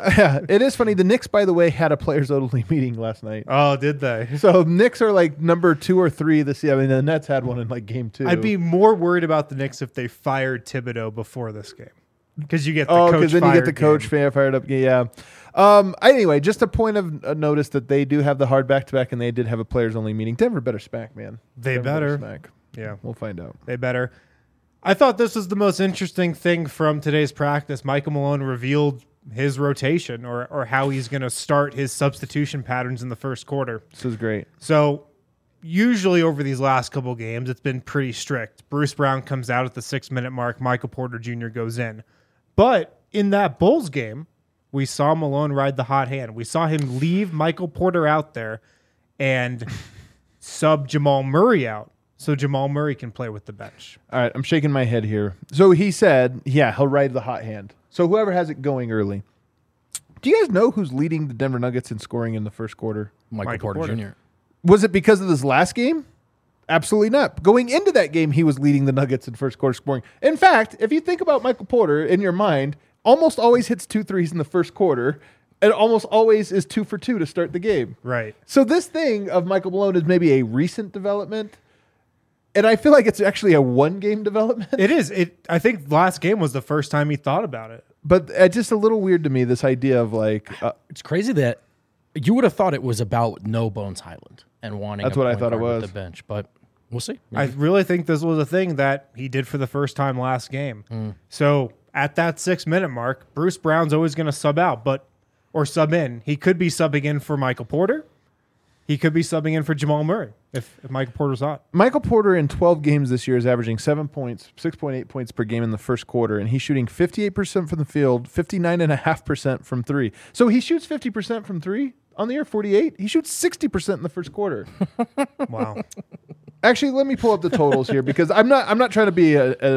It is funny. The Knicks, by the way, had a players only meeting last night. Oh, did they? So Knicks are like number 2 or 3 this year. I mean, the Nets had one in like game 2. I'd be more worried about the Knicks if they fired Thibodeau before this game. Because you get the coach because then you get the fired coach game. fired up. Yeah. Anyway, just a point of notice that they do have the hard back-to-back, and they did have a players only meeting. Denver better smack, man. They Denver better. smack. Yeah, We'll find out. they better. I thought this was the most interesting thing from today's practice. Michael Malone revealed his rotation or how he's going to start his substitution patterns in the first quarter. This is great. So usually over these last couple games, it's been pretty strict. Bruce Brown comes out at the 6-minute mark. Michael Porter Jr. goes in. But in that Bulls game, we saw Malone ride the hot hand. We saw him leave Michael Porter out there and sub Jamal Murray out so Jamal Murray can play with the bench. All right, I'm shaking my head here. So he said, yeah, he'll ride the hot hand. So whoever has it going early. Do you guys know who's leading the Denver Nuggets in scoring in the first quarter? Michael Porter Jr. Was it because of this last game? Absolutely not. Going into that game, he was leading the Nuggets in first quarter scoring. In fact, if you think about Michael Porter in your mind, almost always hits 2 threes in the first quarter, and almost always is 2 for 2 to start the game. Right. So this thing of Michael Malone is maybe a recent development, and I feel like it's actually a one-game development. It is. I think last game was the first time he thought about it. But just a little weird to me, this idea of like, It's crazy that you would have thought it was about No Bones Highland and wanting. That's a what I point thought it guard with was. the bench, but we'll see. I really think this was a thing that he did for the first time last game. So at that 6-minute mark, Bruce Brown's always going to sub out, or sub in. He could be subbing in for Michael Porter. He could be subbing in for Jamal Murray if Michael Porter's hot. Michael Porter in 12 games this year is averaging 7 points, 6.8 points per game in the first quarter, and he's shooting 58% from the field, 59.5% from 3. So he shoots 50% from 3 on the year, 48. He shoots 60% in the first quarter. Wow. Actually, let me pull up the totals here because I'm not trying to be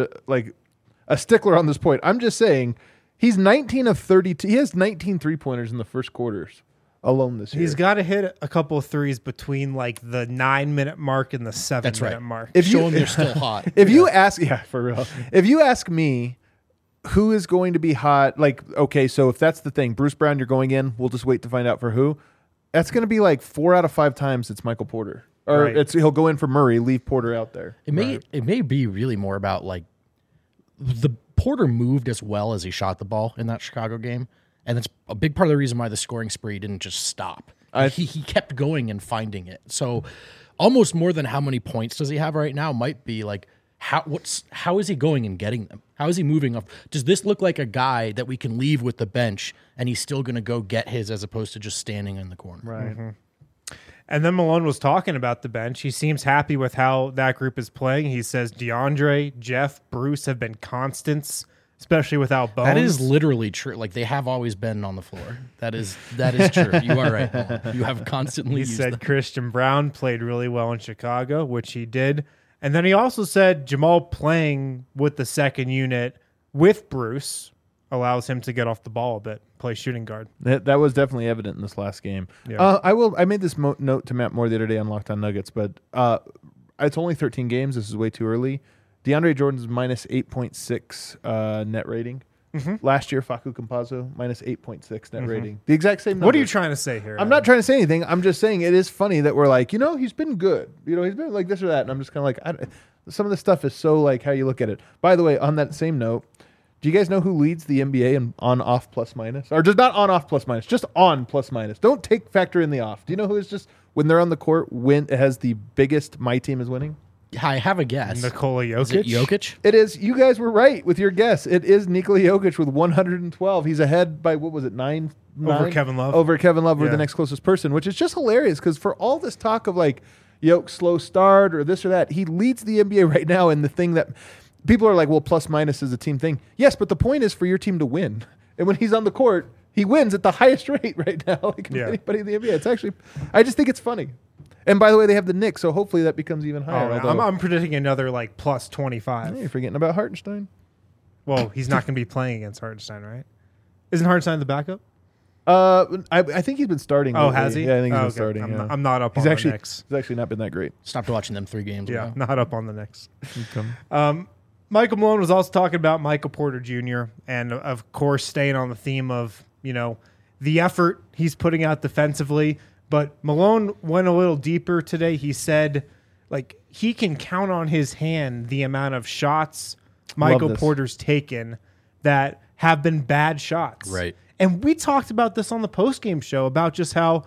a stickler on this point. I'm just saying he's 19 of 32. He has 19 3-pointers in the first quarters alone this year. He's got to hit a couple of threes between like the 9-minute mark and the 7-minute right. mark. If Show you- them they're still hot. If you ask, yeah, for real. If you ask me who is going to be hot, like, okay, so if that's the thing, Bruce Brown, you're going in, we'll just wait to find out for who. That's going to be like 4 out of 5 times it's Michael Porter. Or Right. he'll go in for Murray, leave Porter out there. It may be really more about like the Porter moved as well as he shot the ball in that Chicago game, and that's a big part of the reason why the scoring spree didn't just stop. He kept going and finding it. So almost more than how many points does he have right now might be like how is he going and getting them? How is he moving up? Does this look like a guy that we can leave with the bench and he's still going to go get his as opposed to just standing in the corner? Right. And then Malone was talking about the bench. He seems happy with how that group is playing. He says DeAndre, Jeff, Bruce have been constants, especially without Bones. That is literally true. Like they have always been on the floor. That is true. You are right, Paul. You have constantly He used said them. Christian Brown played really well in Chicago, which he did. And then he also said Jamal playing with the second unit with Bruce allows him to get off the ball a bit, play shooting guard. That was definitely evident in this last game. Yeah. I made this note to Matt Moore the other day on Locked On Nuggets, but it's only 13 games. This is way too early. DeAndre Jordan's minus 8.6 net rating. Last year, Facu Campazzo minus 8.6 net rating. The exact same number. What are you trying to say here? I'm not trying to say anything. I'm just saying it is funny that we're like, he's been good. He's been like this or that. And I'm just kind of like, some of this stuff is so like how you look at it. By the way, on that same note, do you guys know who leads the NBA in on-off plus minus? Or just not on-off plus minus, just on plus minus. Don't factor in the off. Do you know who is just, when they're on the court, it has the biggest my team is winning? I have a guess. Nikola Jokic. Is it Jokic? It is. You guys were right with your guess. It is Nikola Jokic with 112. He's ahead by, what was it, 9? Over Kevin Love. Over Kevin Love, we're Yeah. the next closest person, which is just hilarious because for all this talk of like, Yoke slow start or this or that. He leads the NBA right now in the thing that people are like, well, plus minus is a team thing. Yes, but the point is for your team to win. And when he's on the court, he wins at the highest rate right now, like anybody in the NBA. It's actually, I just think it's funny. And by the way, they have the Knicks, so hopefully that becomes even higher. I'm predicting another like plus 25. You're forgetting about Hartenstein. Well, he's not going to be playing against Hartenstein, right? Isn't Hartenstein the backup? I think he's been starting. Oh, lately. has he? Yeah, I think he's been Okay. starting. I'm not up on the Knicks. He's actually not been that great. Stopped watching them 3 games Yeah, ago. not up on the Knicks. Michael Malone was also talking about Michael Porter Jr. and, of course, staying on the theme of, the effort he's putting out defensively. But Malone went a little deeper today. He said, like, he can count on his hand the amount of shots Michael Porter's taken that have been bad shots. Right. And we talked about this on the postgame show about just how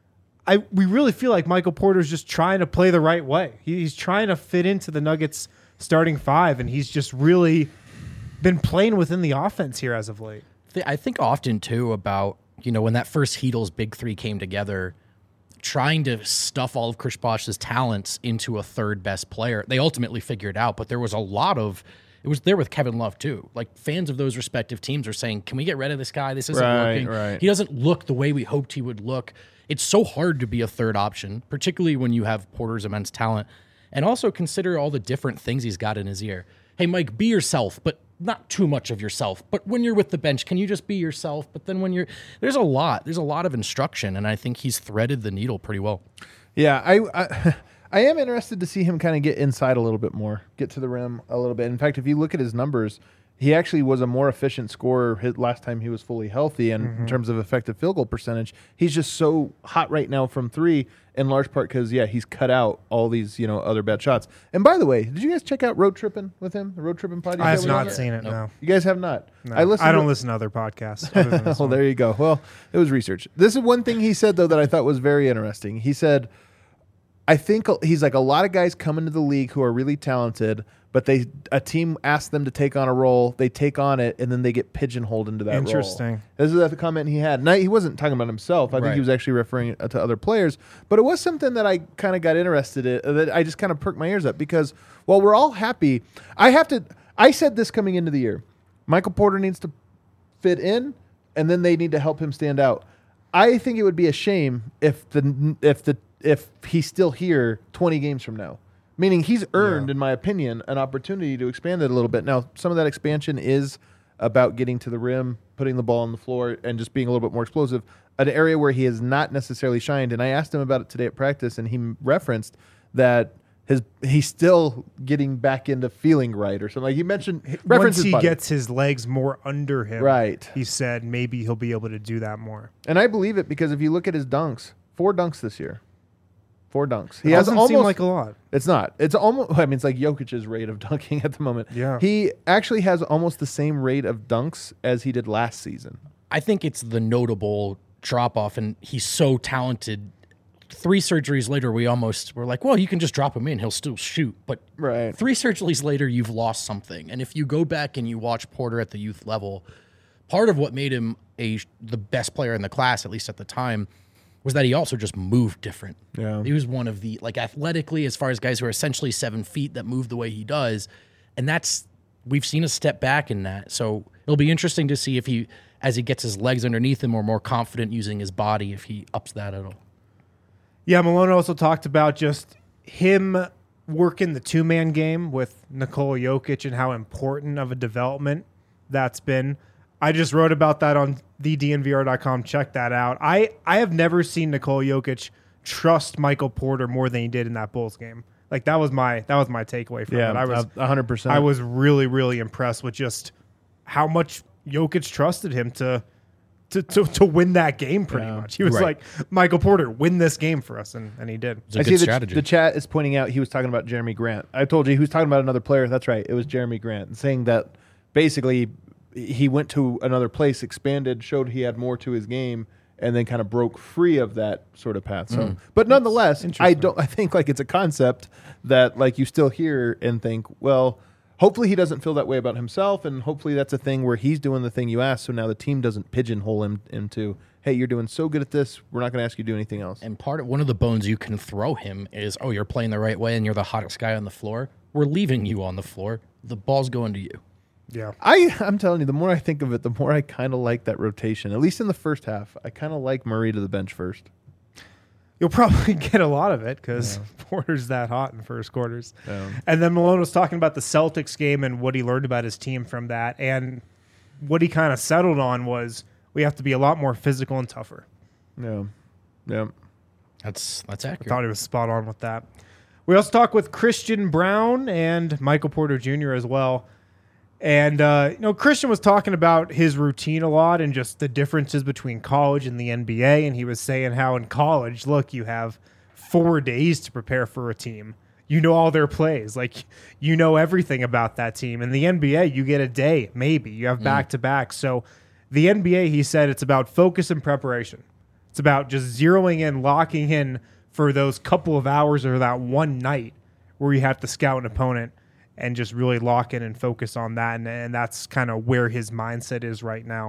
we really feel like Michael Porter's just trying to play the right way. He's trying to fit into the Nuggets starting 5, and he's just really been playing within the offense here as of late. I think often, too, about, when that first Heatles Big Three came together, trying to stuff all of Chris Bosh's talents into a third best player. They ultimately figured out, but there was a lot of, it was there with Kevin Love, too. Like, fans of those respective teams are saying, can we get rid of this guy? This isn't working. Right. He doesn't look the way we hoped he would look. It's so hard to be a third option, particularly when you have Porter's immense talent. And also consider all the different things he's got in his ear. Hey, Mike, be yourself, but not too much of yourself. But when you're with the bench, can you just be yourself? But then when there's a lot of instruction, and I think he's threaded the needle pretty well. Yeah, I am interested to see him kind of get inside a little bit more, get to the rim a little bit. In fact, if you look at his numbers, he actually was a more efficient scorer last time he was fully healthy. And in terms of effective field goal percentage, he's just so hot right now from 3, in large part because, he's cut out all these, other bad shots. And by the way, did you guys check out Road Trippin' with him, the Road Trippin' podcast? I have not seen it, no. You guys have not? No. I don't listen to other podcasts. Other than this well, one. there you go. Well, it was research. This is one thing he said, though, that I thought was very interesting. He said, I think he's like, a lot of guys come into the league who are really talented, but a team asks them to take on a role, they take on it, and then they get pigeonholed into that role. Interesting. This is the comment he had. Now, he wasn't talking about himself. I think he was actually referring to other players. But it was something that I kind of got interested in, that I just kind of perked my ears up because, while we're all happy, I said this coming into the year. Michael Porter needs to fit in, and then they need to help him stand out. I think it would be a shame if he's still here 20 games from now. Meaning he's earned, in my opinion, an opportunity to expand it a little bit. Now, some of that expansion is about getting to the rim, putting the ball on the floor, and just being a little bit more explosive, an area where he has not necessarily shined. And I asked him about it today at practice, and he referenced that he's still getting back into feeling right or something. Like he mentioned, once he gets his legs more under him, right? He said maybe he'll be able to do that more. And I believe it because if you look at his dunks, 4 dunks this year. 4 dunks. He doesn't seem like a lot. It's not. It's almost. I mean, it's like Jokic's rate of dunking at the moment. Yeah. He actually has almost the same rate of dunks as he did last season. I think it's the notable drop off, and he's so talented. 3 surgeries later, we almost were like, well, you can just drop him in; he'll still shoot. But 3 surgeries later, you've lost something. And if you go back and you watch Porter at the youth level, part of what made him the best player in the class, at least at the time, was that he also just moved different. Yeah. He was one of the, like, athletically, as far as guys who are essentially 7 feet that move the way he does. And we've seen a step back in that. So it'll be interesting to see if as he gets his legs underneath him, or more confident using his body, if he ups that at all. Yeah, Malone also talked about just him working the 2-man game with Nikola Jokic and how important of a development that's been. I just wrote about that on thednvr.com. Check that out. I have never seen Nikola Jokic trust Michael Porter more than he did in that Bulls game. Like that was my takeaway from it. I was 100%. I was really, really impressed with just how much Jokic trusted him to win that game pretty much. He was like, Michael Porter, win this game for us, and he did. It's a good strategy. The chat is pointing out he was talking about Jeremy Grant. I told you he was talking about another player. That's right. It was Jeremy Grant, saying that basically he went to another place, expanded, showed he had more to his game, and then kind of broke free of that sort of path. So, but nonetheless, I think like it's a concept that like you still hear and think, well, hopefully he doesn't feel that way about himself, and hopefully that's a thing where he's doing the thing you asked, so now the team doesn't pigeonhole him into, hey, you're doing so good at this, we're not going to ask you to do anything else. And one of the bones you can throw him is, oh, you're playing the right way and you're the hottest guy on the floor. We're leaving you on the floor. The ball's going to you. Yeah. I'm telling you, the more I think of it, the more I kind of like that rotation. At least in the first half, I kind of like Murray to the bench first. You'll probably get a lot of it because Porter's that hot in first quarters. Yeah. And then Malone was talking about the Celtics game and what he learned about his team from that. And what he kind of settled on was we have to be a lot more physical and tougher. Yeah. Yeah. That's I accurate. thought he was spot on with that. We also talked with Christian Brown and Michael Porter Jr. as well. And, Christian was talking about his routine a lot and just the differences between college and the NBA. And he was saying how in college, look, you have 4 days to prepare for a team. You know all their plays. Like, you know everything about that team. In the NBA, you get a day, maybe. You have back-to-back. So the NBA, he said, it's about focus and preparation. It's about just zeroing in, locking in for those couple of hours or that one night where you have to scout an opponent and just really lock in and focus on that. And that's kind of where his mindset is right now.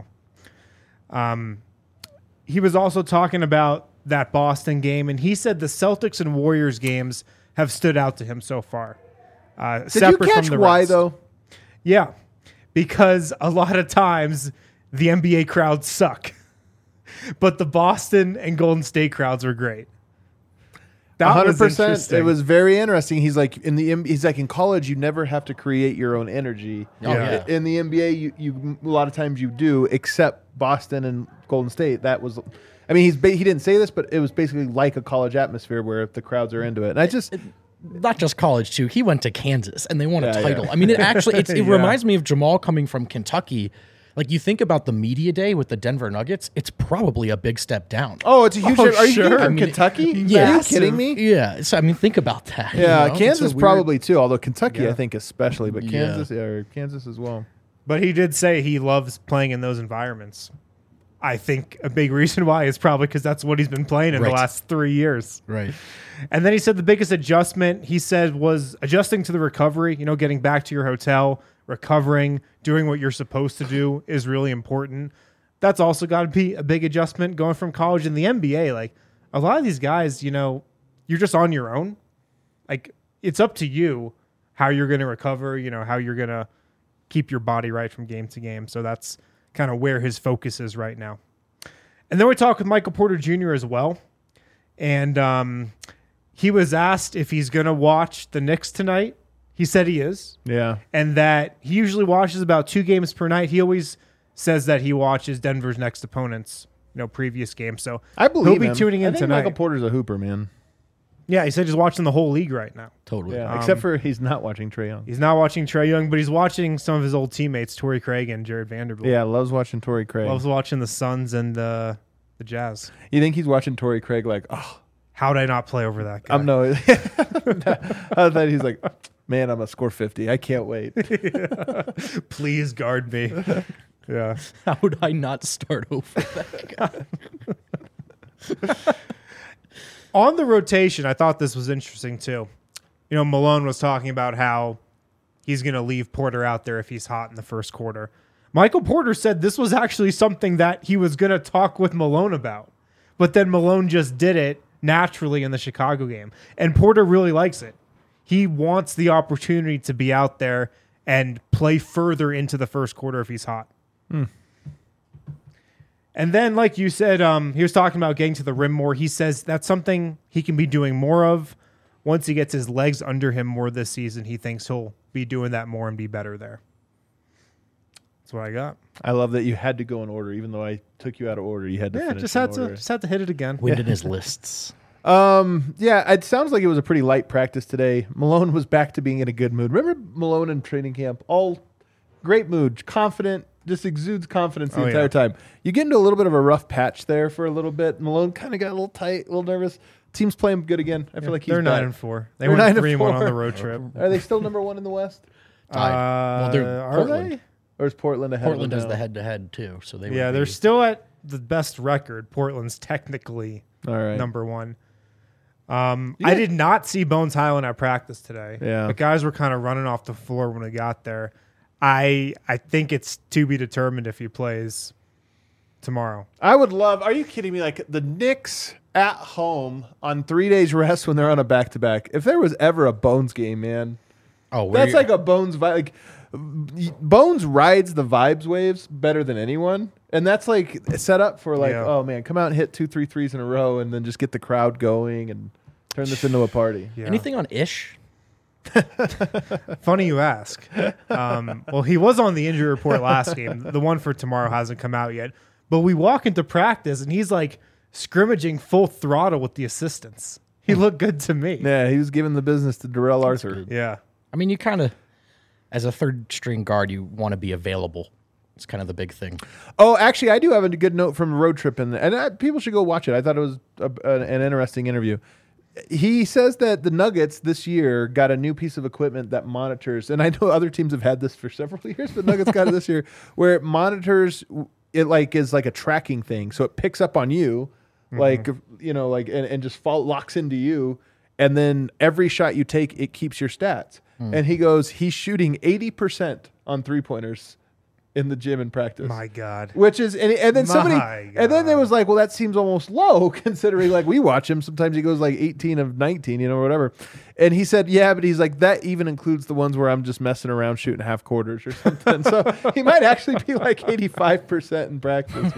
He was also talking about that Boston game, and he said the Celtics and Warriors games have stood out to him so far. Did you catch why, though? Yeah, because a lot of times the NBA crowds suck. But the Boston and Golden State crowds were great. That 100%. It was very interesting. He's like in college, you never have to create your own energy. Oh, yeah. In the NBA, you a lot of times you do, except Boston and Golden State. That was, I mean, he didn't say this, but it was basically like a college atmosphere where the crowds are into it. And I just. Not just college, too. He went to Kansas, and they won a title. Yeah. I mean, it reminds me of Jamal coming from Kentucky. Like, you think about the media day with the Denver Nuggets, it's probably a big step down. Oh, it's a huge step. Are you sure. from Kentucky? Yeah. Are you kidding me? Yeah. So, I mean, think about that. Yeah, Kansas probably, too, although Kentucky, I think, especially, but Kansas as well. But he did say he loves playing in those environments. I think a big reason why is probably because that's what he's been playing in the last 3 years. Right. And then he said the biggest adjustment, he said, was adjusting to the recovery, getting back to your hotel, recovering, doing what you're supposed to do is really important. That's also got to be a big adjustment going from college in the NBA. Like, a lot of these guys, you're just on your own. Like, it's up to you how you're going to recover, how you're going to keep your body right from game to game. So that's kind of where his focus is right now. And then we talked with Michael Porter Jr. as well. And he was asked if he's going to watch the Knicks tonight. He said he is. Yeah. And that he usually watches about 2 games per night. He always says that he watches Denver's next opponents, previous game. So I believe he'll be tuning in tonight. Michael Porter's a hooper, man. Yeah, he said he's watching the whole league right now. Totally. Yeah, except for he's not watching Trae Young. He's not watching Trae Young, but he's watching some of his old teammates, Torrey Craig and Jared Vanderbilt. Yeah, loves watching Torrey Craig. Loves watching the Suns and the Jazz. You think he's watching Torrey Craig like, oh. How did I not play over that guy? I thought he's like, man, I'm going to score 50. I can't wait. Please guard me. Yeah. How would I not start over that guy? On the rotation, I thought this was interesting too. Malone was talking about how he's going to leave Porter out there if he's hot in the first quarter. Michael Porter said this was actually something that he was going to talk with Malone about. But then Malone just did it naturally in the Chicago game. And Porter really likes it. He wants the opportunity to be out there and play further into the first quarter if he's hot. And then, like you said, he was talking about getting to the rim more. He says that's something he can be doing more of. Once he gets his legs under him more this season, he thinks he'll be doing that more and be better there. That's what I got. I love that you had to go in order, even though I took you out of order. You had to finish just had to hit it again. Wind in his lists. It sounds like it was a pretty light practice today. Malone was back to being in a good mood. Remember Malone in training camp? All great mood, confident, just exudes confidence the entire time. You get into a little bit of a rough patch there for a little bit. Malone kind of got a little tight, a little nervous. Team's playing good again. I feel like they're 9-4. They went 3-1 on the road trip. Are they still number 1 in the West? Well, they're are Portland. they? Or is Portland ahead? Portland of has them the now? head-to-head too, so they. They're still at the best record. Portland's technically all right. number 1. I did not see Bones Highland at practice today. Yeah. The guys were kind of running off the floor when I got there. I think it's to be determined if he plays tomorrow. I would love. Are you kidding me? Like the Knicks at home on 3 days rest when they're on a back-to-back. If there was ever a Bones game, man, that's like a Bones vibe. Like Bones rides the vibes waves better than anyone, and that's like set up for like, oh man, come out and hit 2-3 threes in a row, and then just get the crowd going and turn this into a party. Yeah. Anything on Ish? Funny you ask. Well, he was on the injury report last game. The one for tomorrow hasn't come out yet. But we walk into practice, and he's like scrimmaging full throttle with the assistants. He looked good to me. Yeah, he was giving the business to Darrell Arthur. Yeah. I mean, you kind of, as a third string guard, you want to be available. It's kind of the big thing. Oh, actually, I do have a good note from a road trip, and people should go watch it. I thought it was an interesting interview. He says that the Nuggets this year got a new piece of equipment that monitors, and I know other teams have had this for several years, but Nuggets got it this year, where it monitors. It like is like a tracking thing, so it picks up on you, like and just locks into you, and then every shot you take, it keeps your stats. And he goes, he's shooting 80% on 3-pointers in the gym in practice. My God. Which is, and then and then there was like, well, that seems almost low considering like we watch him. Sometimes he goes like 18 of 19, whatever. And he said, yeah, but he's like, that even includes the ones where I'm just messing around shooting half quarters or something. So he might actually be like 85% in practice,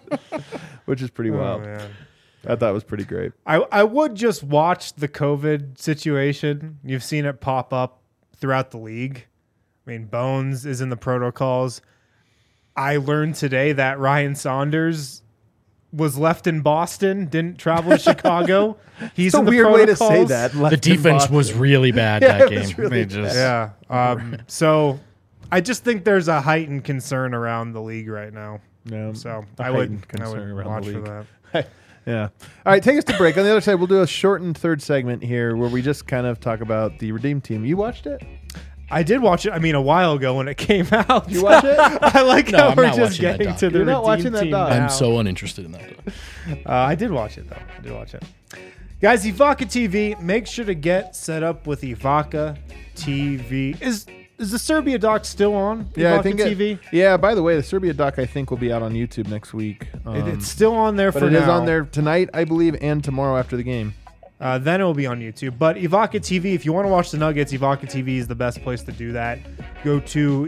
which is pretty wild. Man. I thought it was pretty great. I would just watch the COVID situation. You've seen it pop up throughout the league. I mean, Bones is in the protocols. I learned today that Ryan Saunders was left in Boston, didn't travel to Chicago. He's It's a in the weird way to say protocols. that. The defense was really bad that it game. was really They just- Yeah. So I just think there's a heightened concern around the league right now. Yeah, So a I would heightened concern around watch the for league. that. Yeah. All right, take us to break. On the other side, we'll do a shortened third segment here where we just kind of talk about the Redeem Team. You watched it? I did watch it. I mean, a while ago when it came out. You watch it? I like No, how I'm we're not just watching that getting doc. to the You're not Redeem watching that Team doc. now. I'm so uninterested in that. I did watch it, though. I did watch it. Guys, Evoca TV, make sure to get set up with Evoca TV. Is the Serbia doc still on? Yeah, I Evoca think TV? Yeah, by the way, the Serbia doc I think will be out on YouTube next week. It's still on there but for it now. is on there tonight, I believe, and tomorrow after the game. Then it will be on YouTube. But Evoca TV, if you want to watch the Nuggets, Evoca TV is the best place to do that. Go to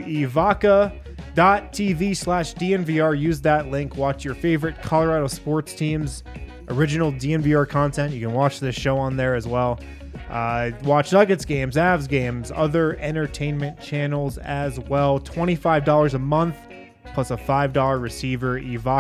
evoca.tv/DNVR. Use that link. Watch your favorite Colorado sports teams. Original DNVR content. You can watch this show on there as well. Watch Nuggets games, Avs games, other entertainment channels as well. $25 a month plus a $5 receiver.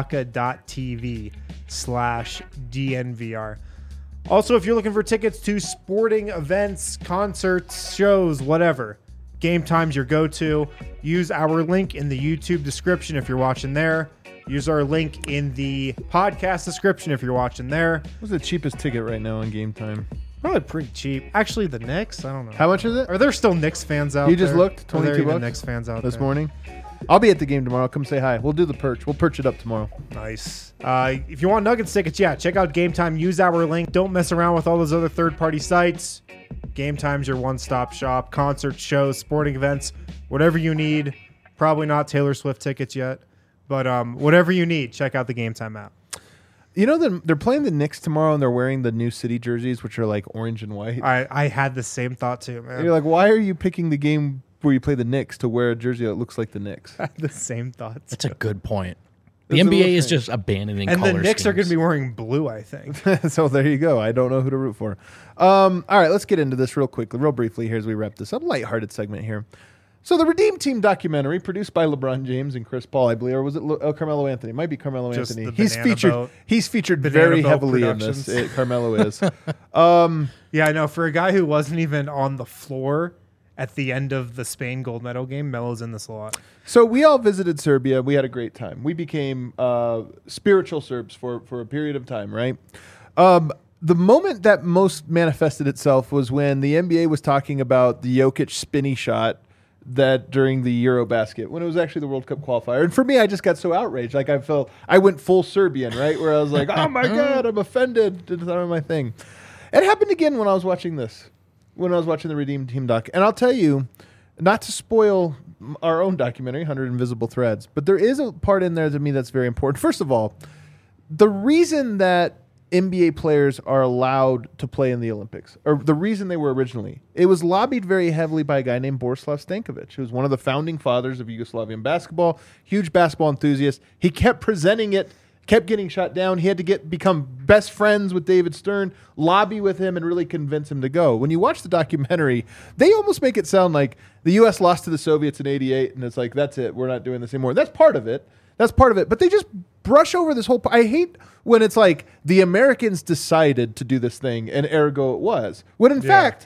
Evoca.tv/DNVR. Also, if you're looking for tickets to sporting events, concerts, shows, whatever, Game Time's your go-to. Use our link in the YouTube description if you're watching there. Use our link in the podcast description if you're watching there. What's the cheapest ticket right now on Game Time? Probably pretty cheap. Actually, the Knicks, I don't know. How much is it? Are there still Knicks fans out You there? just looked? Are there 22 even bucks Knicks fans out this there? morning? I'll be at the game tomorrow. Come say hi. We'll do the perch. We'll perch it up tomorrow. Nice. If you want Nuggets tickets, yeah, check out Game Time. Use our link. Don't mess around with all those other third-party sites. Game Time's your one-stop shop. Concerts, shows, sporting events, whatever you need. Probably not Taylor Swift tickets yet, but whatever you need, check out the Game Time app. You know, they're playing the Knicks tomorrow, and they're wearing the new city jerseys, which are like orange and white. I had the same thought too, man. And you're like, why are you picking the game where you play the Knicks to wear a jersey that looks like the Knicks? I had the same thoughts. That's a good point. The It's a NBA little is thing. just abandoning And the color Knicks are going to schemes. be wearing blue, I think. So there you go. I don't know who to root for. All right, let's get into this real quickly, real briefly here as we wrap this up. Lighthearted segment here. So the Redeem Team documentary, produced by LeBron James and Chris Paul, I believe, or was it Carmelo Anthony? It might be Carmelo Just Anthony. the He's Banana featured. Boat. He's featured Banana very Boat heavily Productions. in this. Carmelo is. Yeah, I know. For a guy who wasn't even on the floor at the end of the Spain gold medal game, Melo's in this a lot. So we all visited Serbia. We had a great time. We became spiritual Serbs for a period of time, right? The moment that most manifested itself was when the NBA was talking about the Jokic spinny shot that during the Eurobasket, when it was actually the World Cup qualifier. And for me, I just got so outraged. Like I went full Serbian, right? Where I was like, oh my God, I'm offended. It's not my thing. It happened again when I was watching this, when I was watching the Redeem Team doc. And I'll tell you, not to spoil our own documentary, 100 Invisible Threads, but there is a part in there to me that's very important. First of all, the reason that NBA players are allowed to play in the Olympics, or the reason they were originally, it was lobbied very heavily by a guy named Borislav Stankovic, who was one of the founding fathers of Yugoslavian basketball, huge basketball enthusiast. He kept presenting it, kept getting shot down. He had to become best friends with David Stern, lobby with him, and really convince him to go. When you watch the documentary, they almost make it sound like the U.S. lost to the Soviets in '88, and it's like, that's it, we're not doing this anymore. That's part of it. But they just brush over this whole. I hate when it's like the Americans decided to do this thing, and ergo it was. When in fact,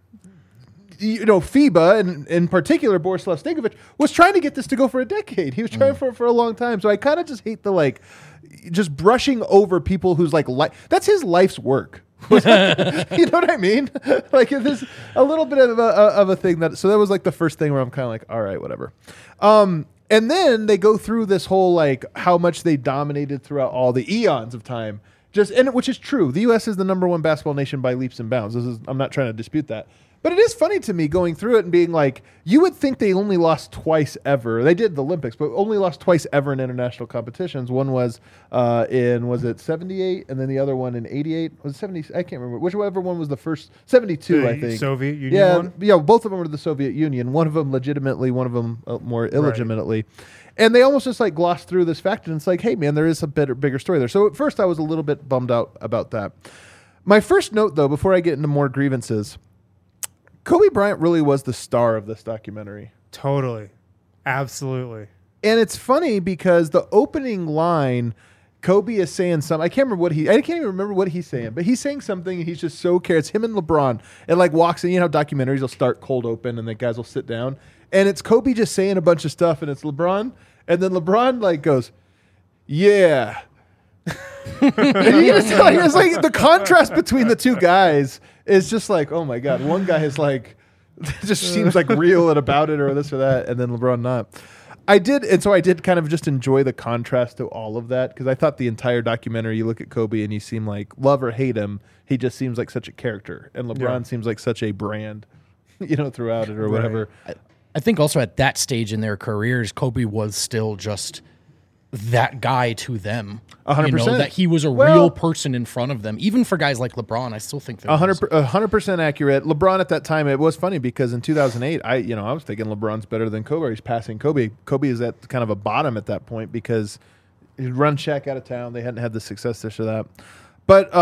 FIBA, and in particular Borislav Stankovic, was trying to get this to go for a decade. He was trying for a long time. So I kind of just hate the just brushing over people whose that's his life's work. You know what I mean? There's a little bit of a thing that was like the first thing where I'm kind of like, all right, whatever. And then they go through this whole how much they dominated throughout all the eons of time. Which is true. The U.S. is the number one basketball nation by leaps and bounds. I'm not trying to dispute that. But it is funny to me going through it and being like, you would think they only lost twice ever. They did the Olympics, but only lost twice ever in international competitions. One was was it 78? And then the other one in 88? Was it 70? I can't remember. Whichever one was the first. 72, I think. Soviet Union one? Yeah, both of them were the Soviet Union. One of them legitimately, one of them more illegitimately. Right. And they almost just glossed through this fact, and it's like, hey, man, there is a bigger story there. So at first I was a little bit bummed out about that. My first note, though, before I get into more grievances, Kobe Bryant really was the star of this documentary. Totally. Absolutely. And it's funny because the opening line, Kobe is saying something. I can't even remember what he's saying, but he's saying something and he's just so cares. It's him and LeBron. And walks in, documentaries will start cold open and the guys will sit down. And it's Kobe just saying a bunch of stuff and it's LeBron. And then LeBron goes, yeah. It's like the contrast between the two guys is just oh my God. One guy is just seems real and about it or this or that, and then LeBron not. I did kind of just enjoy the contrast to all of that because I thought the entire documentary, you look at Kobe and you seem love or hate him, he just seems like such a character, and LeBron seems like such a brand, throughout it or whatever. I think also at that stage in their careers, Kobe was still just that guy to them. 100%. That he was a real person in front of them. Even for guys like LeBron, I still think that 100% accurate. LeBron at that time, it was funny because in 2008, I was thinking LeBron's better than Kobe. He's passing Kobe. Kobe is at kind of a bottom at that point because he'd run Shaq out of town. They hadn't had the success this or that. But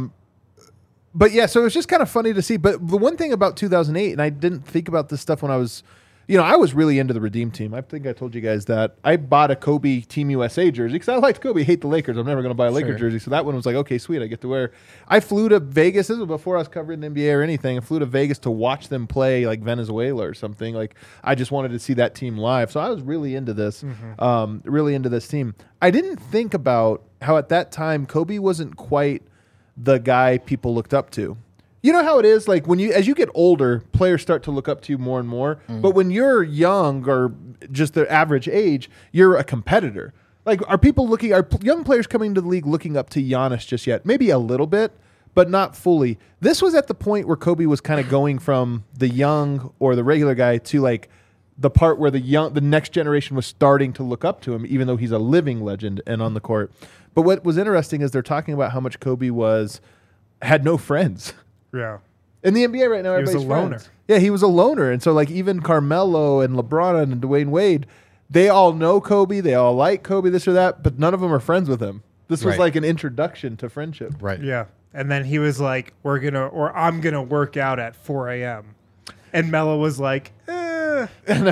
yeah, so it was just kind of funny to see. But the one thing about 2008, and I didn't think about this stuff when I was I was really into the Redeem Team. I think I told you guys that. I bought a Kobe Team USA jersey because I liked Kobe, hate the Lakers. I'm never going to buy a Lakers jersey. So that one was okay, sweet, I get to wear. I flew to Vegas. This was before I was covering the NBA or anything. I flew to Vegas to watch them play Venezuela or something. I just wanted to see that team live. So I was really into this, really into this team. I didn't think about how at that time Kobe wasn't quite the guy people looked up to. You know how it is, as you get older, players start to look up to you more and more. But when you're young or just the average age, you're a competitor. Are young players coming to the league looking up to Giannis just yet? Maybe a little bit, but not fully. This was at the point where Kobe was kind of going from the young or the regular guy to the part where the next generation was starting to look up to him, even though he's a living legend and on the court. But what was interesting is they're talking about how much Kobe had no friends. Yeah. In the NBA right now, everybody's a loner. friends. Yeah, he was a loner. And so even Carmelo and LeBron and Dwayne Wade, they all know Kobe. They all like Kobe, this or that, but none of them are friends with him. This was an introduction to friendship. Right. Yeah. And then he was I'm going to work out at 4 a.m. And Melo was like, By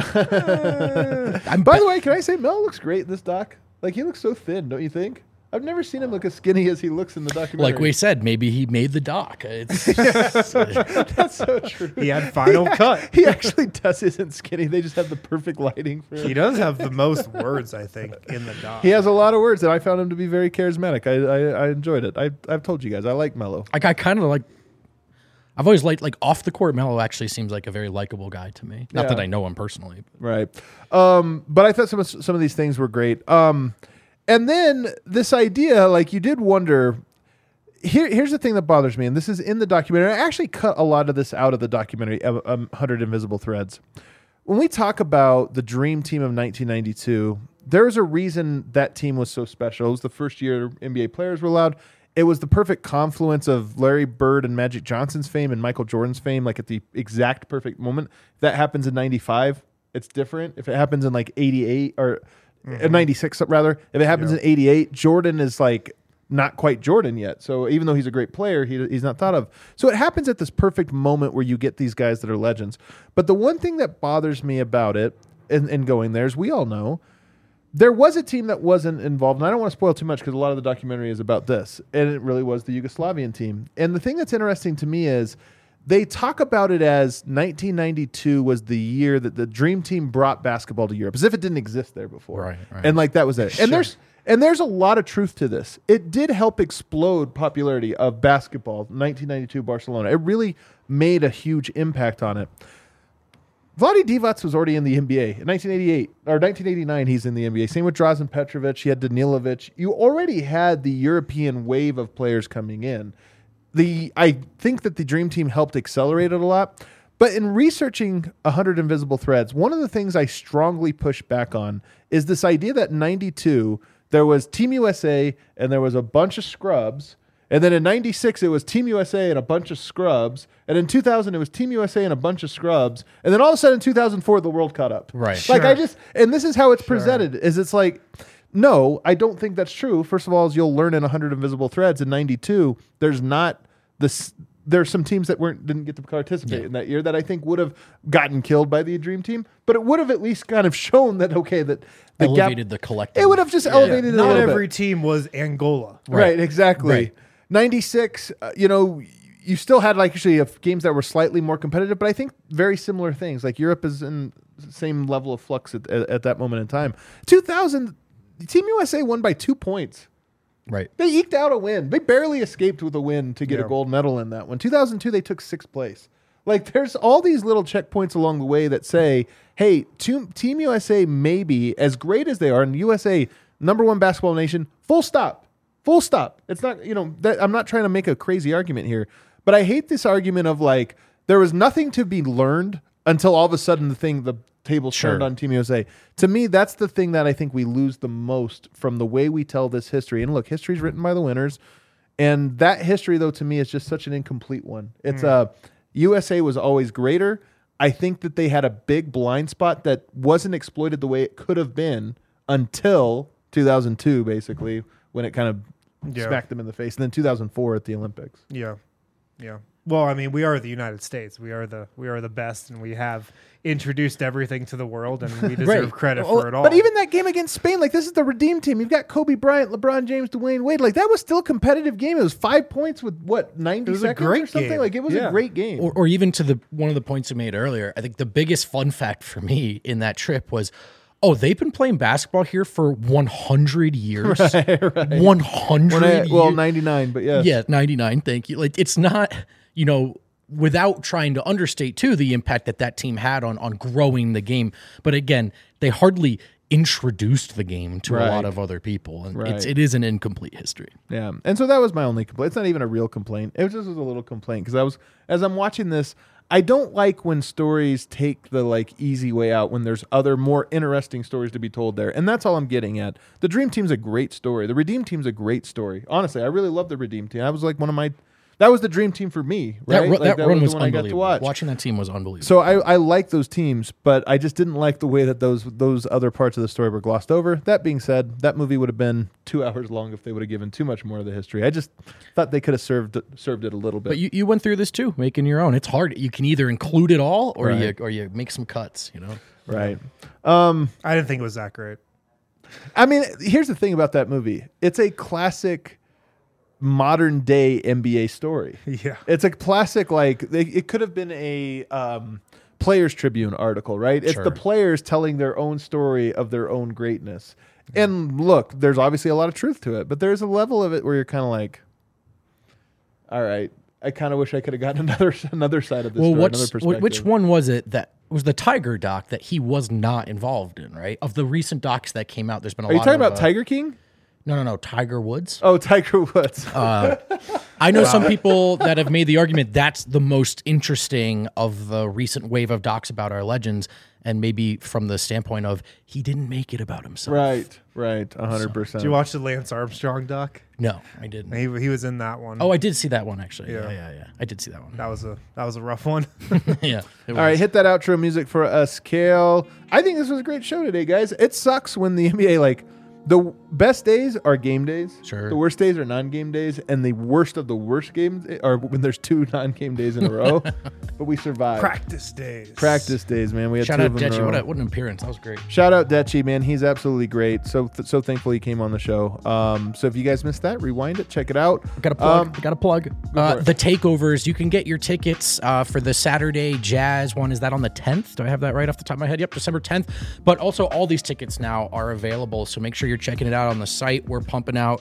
the way, can I say Melo looks great in this doc? He looks so thin, don't you think? I've never seen him look as skinny as he looks in the documentary. Like we said, maybe he made the doc. That's so true. He had Final Cut. He actually isn't skinny. They just have the perfect lighting for him. He does have the most words, I think, in the doc. He has a lot of words, and I found him to be very charismatic. I enjoyed it. I've told you guys, I like Melo. I kind of I've always liked, off the court, Melo actually seems like a very likable guy to me. Not that I know him personally. Right. But I thought some of these things were great. And then this idea, you did wonder, Here's the thing that bothers me, and this is in the documentary. I actually cut a lot of this out of the documentary, 100 Invisible Threads. When we talk about the Dream Team of 1992, there's a reason that team was so special. It was the first year NBA players were allowed. It was the perfect confluence of Larry Bird and Magic Johnson's fame and Michael Jordan's fame, like at the exact perfect moment. If that happens in 95, it's different. If it happens in like 88 or 96, rather, if it happens in 88, Jordan is like not quite Jordan yet. So even though he's a great player, he's not thought of. So it happens at this perfect moment where you get these guys that are legends. But the one thing that bothers me about it and going there is we all know there was a team that wasn't involved. And I don't want to spoil too much because a lot of the documentary is about this. And it really was the Yugoslavian team. And the thing that's interesting to me is they talk about it as 1992 was the year that the Dream Team brought basketball to Europe, as if it didn't exist there before. Right. And like that was it. And there's a lot of truth to this. It did help explode popularity of basketball, 1992 Barcelona. It really made a huge impact on it. Vlade Divac was already in the NBA. In 1988 or 1989, he's in the NBA. Same with Drazen Petrovic. He had Danilovic. You already had the European wave of players coming in. I think that the Dream Team helped accelerate it a lot. But in researching 100 Invisible Threads, one of the things I strongly push back on is this idea that in 92, there was Team USA and there was a bunch of scrubs. And then in 96, it was Team USA and a bunch of scrubs. And in 2000, it was Team USA and a bunch of scrubs. And then all of a sudden in 2004, the world caught up. Right. Like and this is how it's presented, is it's like, no, I don't think that's true. First of all, as you'll learn in 100 Invisible Threads in 92, there's not this. There's some teams that didn't get to participate in that year that I think would have gotten killed by the Dream Team, but it would have at least kind of shown that, okay, that the elevated the collective. It would have just elevated it a Not little every bit. team was Angola. Right, exactly. Right. 96, you still had like actually games that were slightly more competitive, but I think very similar things. Like Europe is in the same level of flux at that moment in time. 2000, Team USA won by 2 points. Right. They eked out a win. They barely escaped with a win to get a gold medal in that one. 2002, they took 6th place. Like, there's all these little checkpoints along the way that say, hey, Team USA may be as great as they are, and USA, #1 basketball nation, full stop. Full stop. It's not, I'm not trying to make a crazy argument here, but I hate this argument of like, there was nothing to be learned until all of a sudden the tables turned on Team USA. To me, that's the thing that I think we lose the most from the way we tell this history. And look, history is written by the winners. And that history, though, to me is just such an incomplete one. It's USA was always greater. I think that they had a big blind spot that wasn't exploited the way it could have been until 2002, basically, when it kind of smacked them in the face. And then 2004 at the Olympics. Yeah. Well, I mean, we are the United States. We are the best, and we have introduced everything to the world, and we deserve credit for it all. But even that game against Spain, like this is the Redeem Team. You've got Kobe Bryant, LeBron James, Dwayne Wade. Like that was still a competitive game. It was 5 points with 90 seconds or something. Game. Like it was a great game. Or even to one of the points you made earlier, I think the biggest fun fact for me in that trip was, they've been playing basketball here for 100 years. Right. 100 years. Well, 99, but yes. Yeah, 99, thank you. Like, it's not, without trying to understate, too, the impact that team had on growing the game. But again, they hardly introduced the game to a lot of other people. And it is an incomplete history. Yeah. And so that was my only complaint. It's not even a real complaint. It was a little complaint because as I'm watching this, I don't like when stories take the like easy way out when there's other more interesting stories to be told there. And that's all I'm getting at. The Dream Team's a great story. The Redeem Team's a great story. Honestly, I really love the Redeem Team. I was like that was the Dream Team for me, right? That run was the one I got to unbelievable. watch. Watching that team was unbelievable. So I like those teams, but I just didn't like the way that those other parts of the story were glossed over. That being said, that movie would have been 2 hours long if they would have given too much more of the history. I just thought they could have served it a little bit. But you went through this too, making your own. It's hard. You can either include it all or you make some cuts, Right. I didn't think it was that great. I mean, here's the thing about that movie. It's a classic modern day NBA story. Yeah. It's a classic, like it could have been a Players Tribune article, right? It's the players telling their own story of their own greatness. And look, there's obviously a lot of truth to it, but there's a level of it where you're kind of like, all right, I kind of wish I could have gotten another side of this story, another perspective. Which one was it that was the Tiger doc that he was not involved in, right? Of the recent docs that came out, there's been a lot of... Are you talking about Tiger King? No, Tiger Woods. Oh, Tiger Woods. I know some people that have made the argument that's the most interesting of the recent wave of docs about our legends, and maybe from the standpoint of he didn't make it about himself. Right, 100%. Did you watch the Lance Armstrong doc? No, I didn't. He was in that one. Oh, I did see that one actually. Yeah. Yeah. I did see that one. That was a rough one. Yeah. All right, hit that outro music for us, Kale. I think this was a great show today, guys. It sucks when the NBA, the best days are game days. Sure. The worst days are non-game days, and the worst of the worst games are when there's 2 non-game days in a row. But we survived. Practice days. Practice days, man. We had Shout 2 out of them in a Dechi. row. What an appearance. That was great. Shout out Dechi, man. He's absolutely great. So thankful he came on the show. So if you guys missed that, rewind it, check it out. Got a plug. Got a plug. for it. The takeovers. You can get your tickets for the Saturday Jazz one. Is that on the 10th? Do I have that right off the top of my head? Yep, December 10th. But also, all these tickets now are available. So make sure you're checking it out on the site. We're pumping out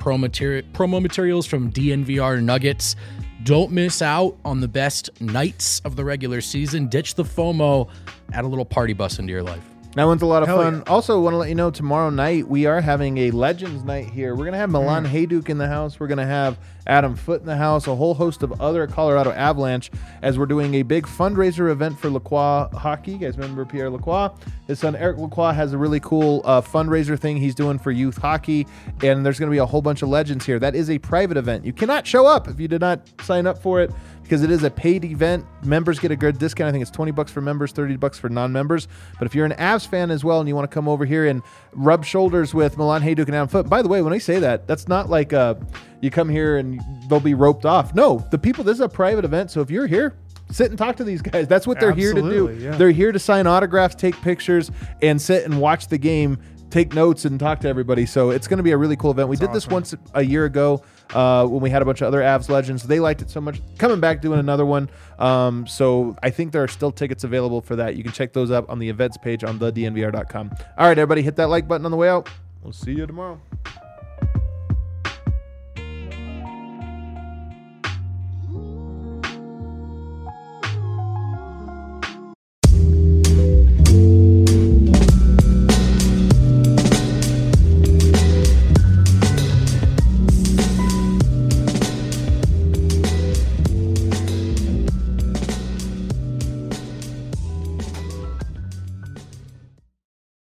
promo materials from DNVR Nuggets. Don't miss out on the best nights of the regular season. Ditch the FOMO. Add a little party bus into your life. That one's a lot of Hell fun. yeah. Also, want to let you know tomorrow night we are having a Legends night here. We're going to have Milan Hajduk in the house. We're going to have Adam Foote in the house, a whole host of other Colorado Avalanche, as we're doing a big fundraiser event for Lacroix hockey. You guys remember Pierre Lacroix? His son Eric Lacroix has a really cool fundraiser thing he's doing for youth hockey, and there's going to be a whole bunch of legends here. That is a private event. You cannot show up if you did not sign up for it, because it is a paid event. Members get a good discount. I think it's $20 for members, $30 for non-members. But if you're an Avs fan as well and you want to come over here and rub shoulders with Milan Hajduk and Adam Foote, by the way, when I say that, that's not like you come here and they'll be roped off. No, this is a private event. So if you're here, sit and talk to these guys. That's what they're here to do. Absolutely, yeah. They're here to sign autographs, take pictures, and sit and watch the game, take notes, and talk to everybody. So it's going to be a really cool event. We did this once a year ago when we had a bunch of other Avs legends. They liked it so much. Coming back, doing another one. So I think there are still tickets available for that. You can check those up on the events page on thednvr.com. All right, everybody, hit that like button on the way out. We'll see you tomorrow.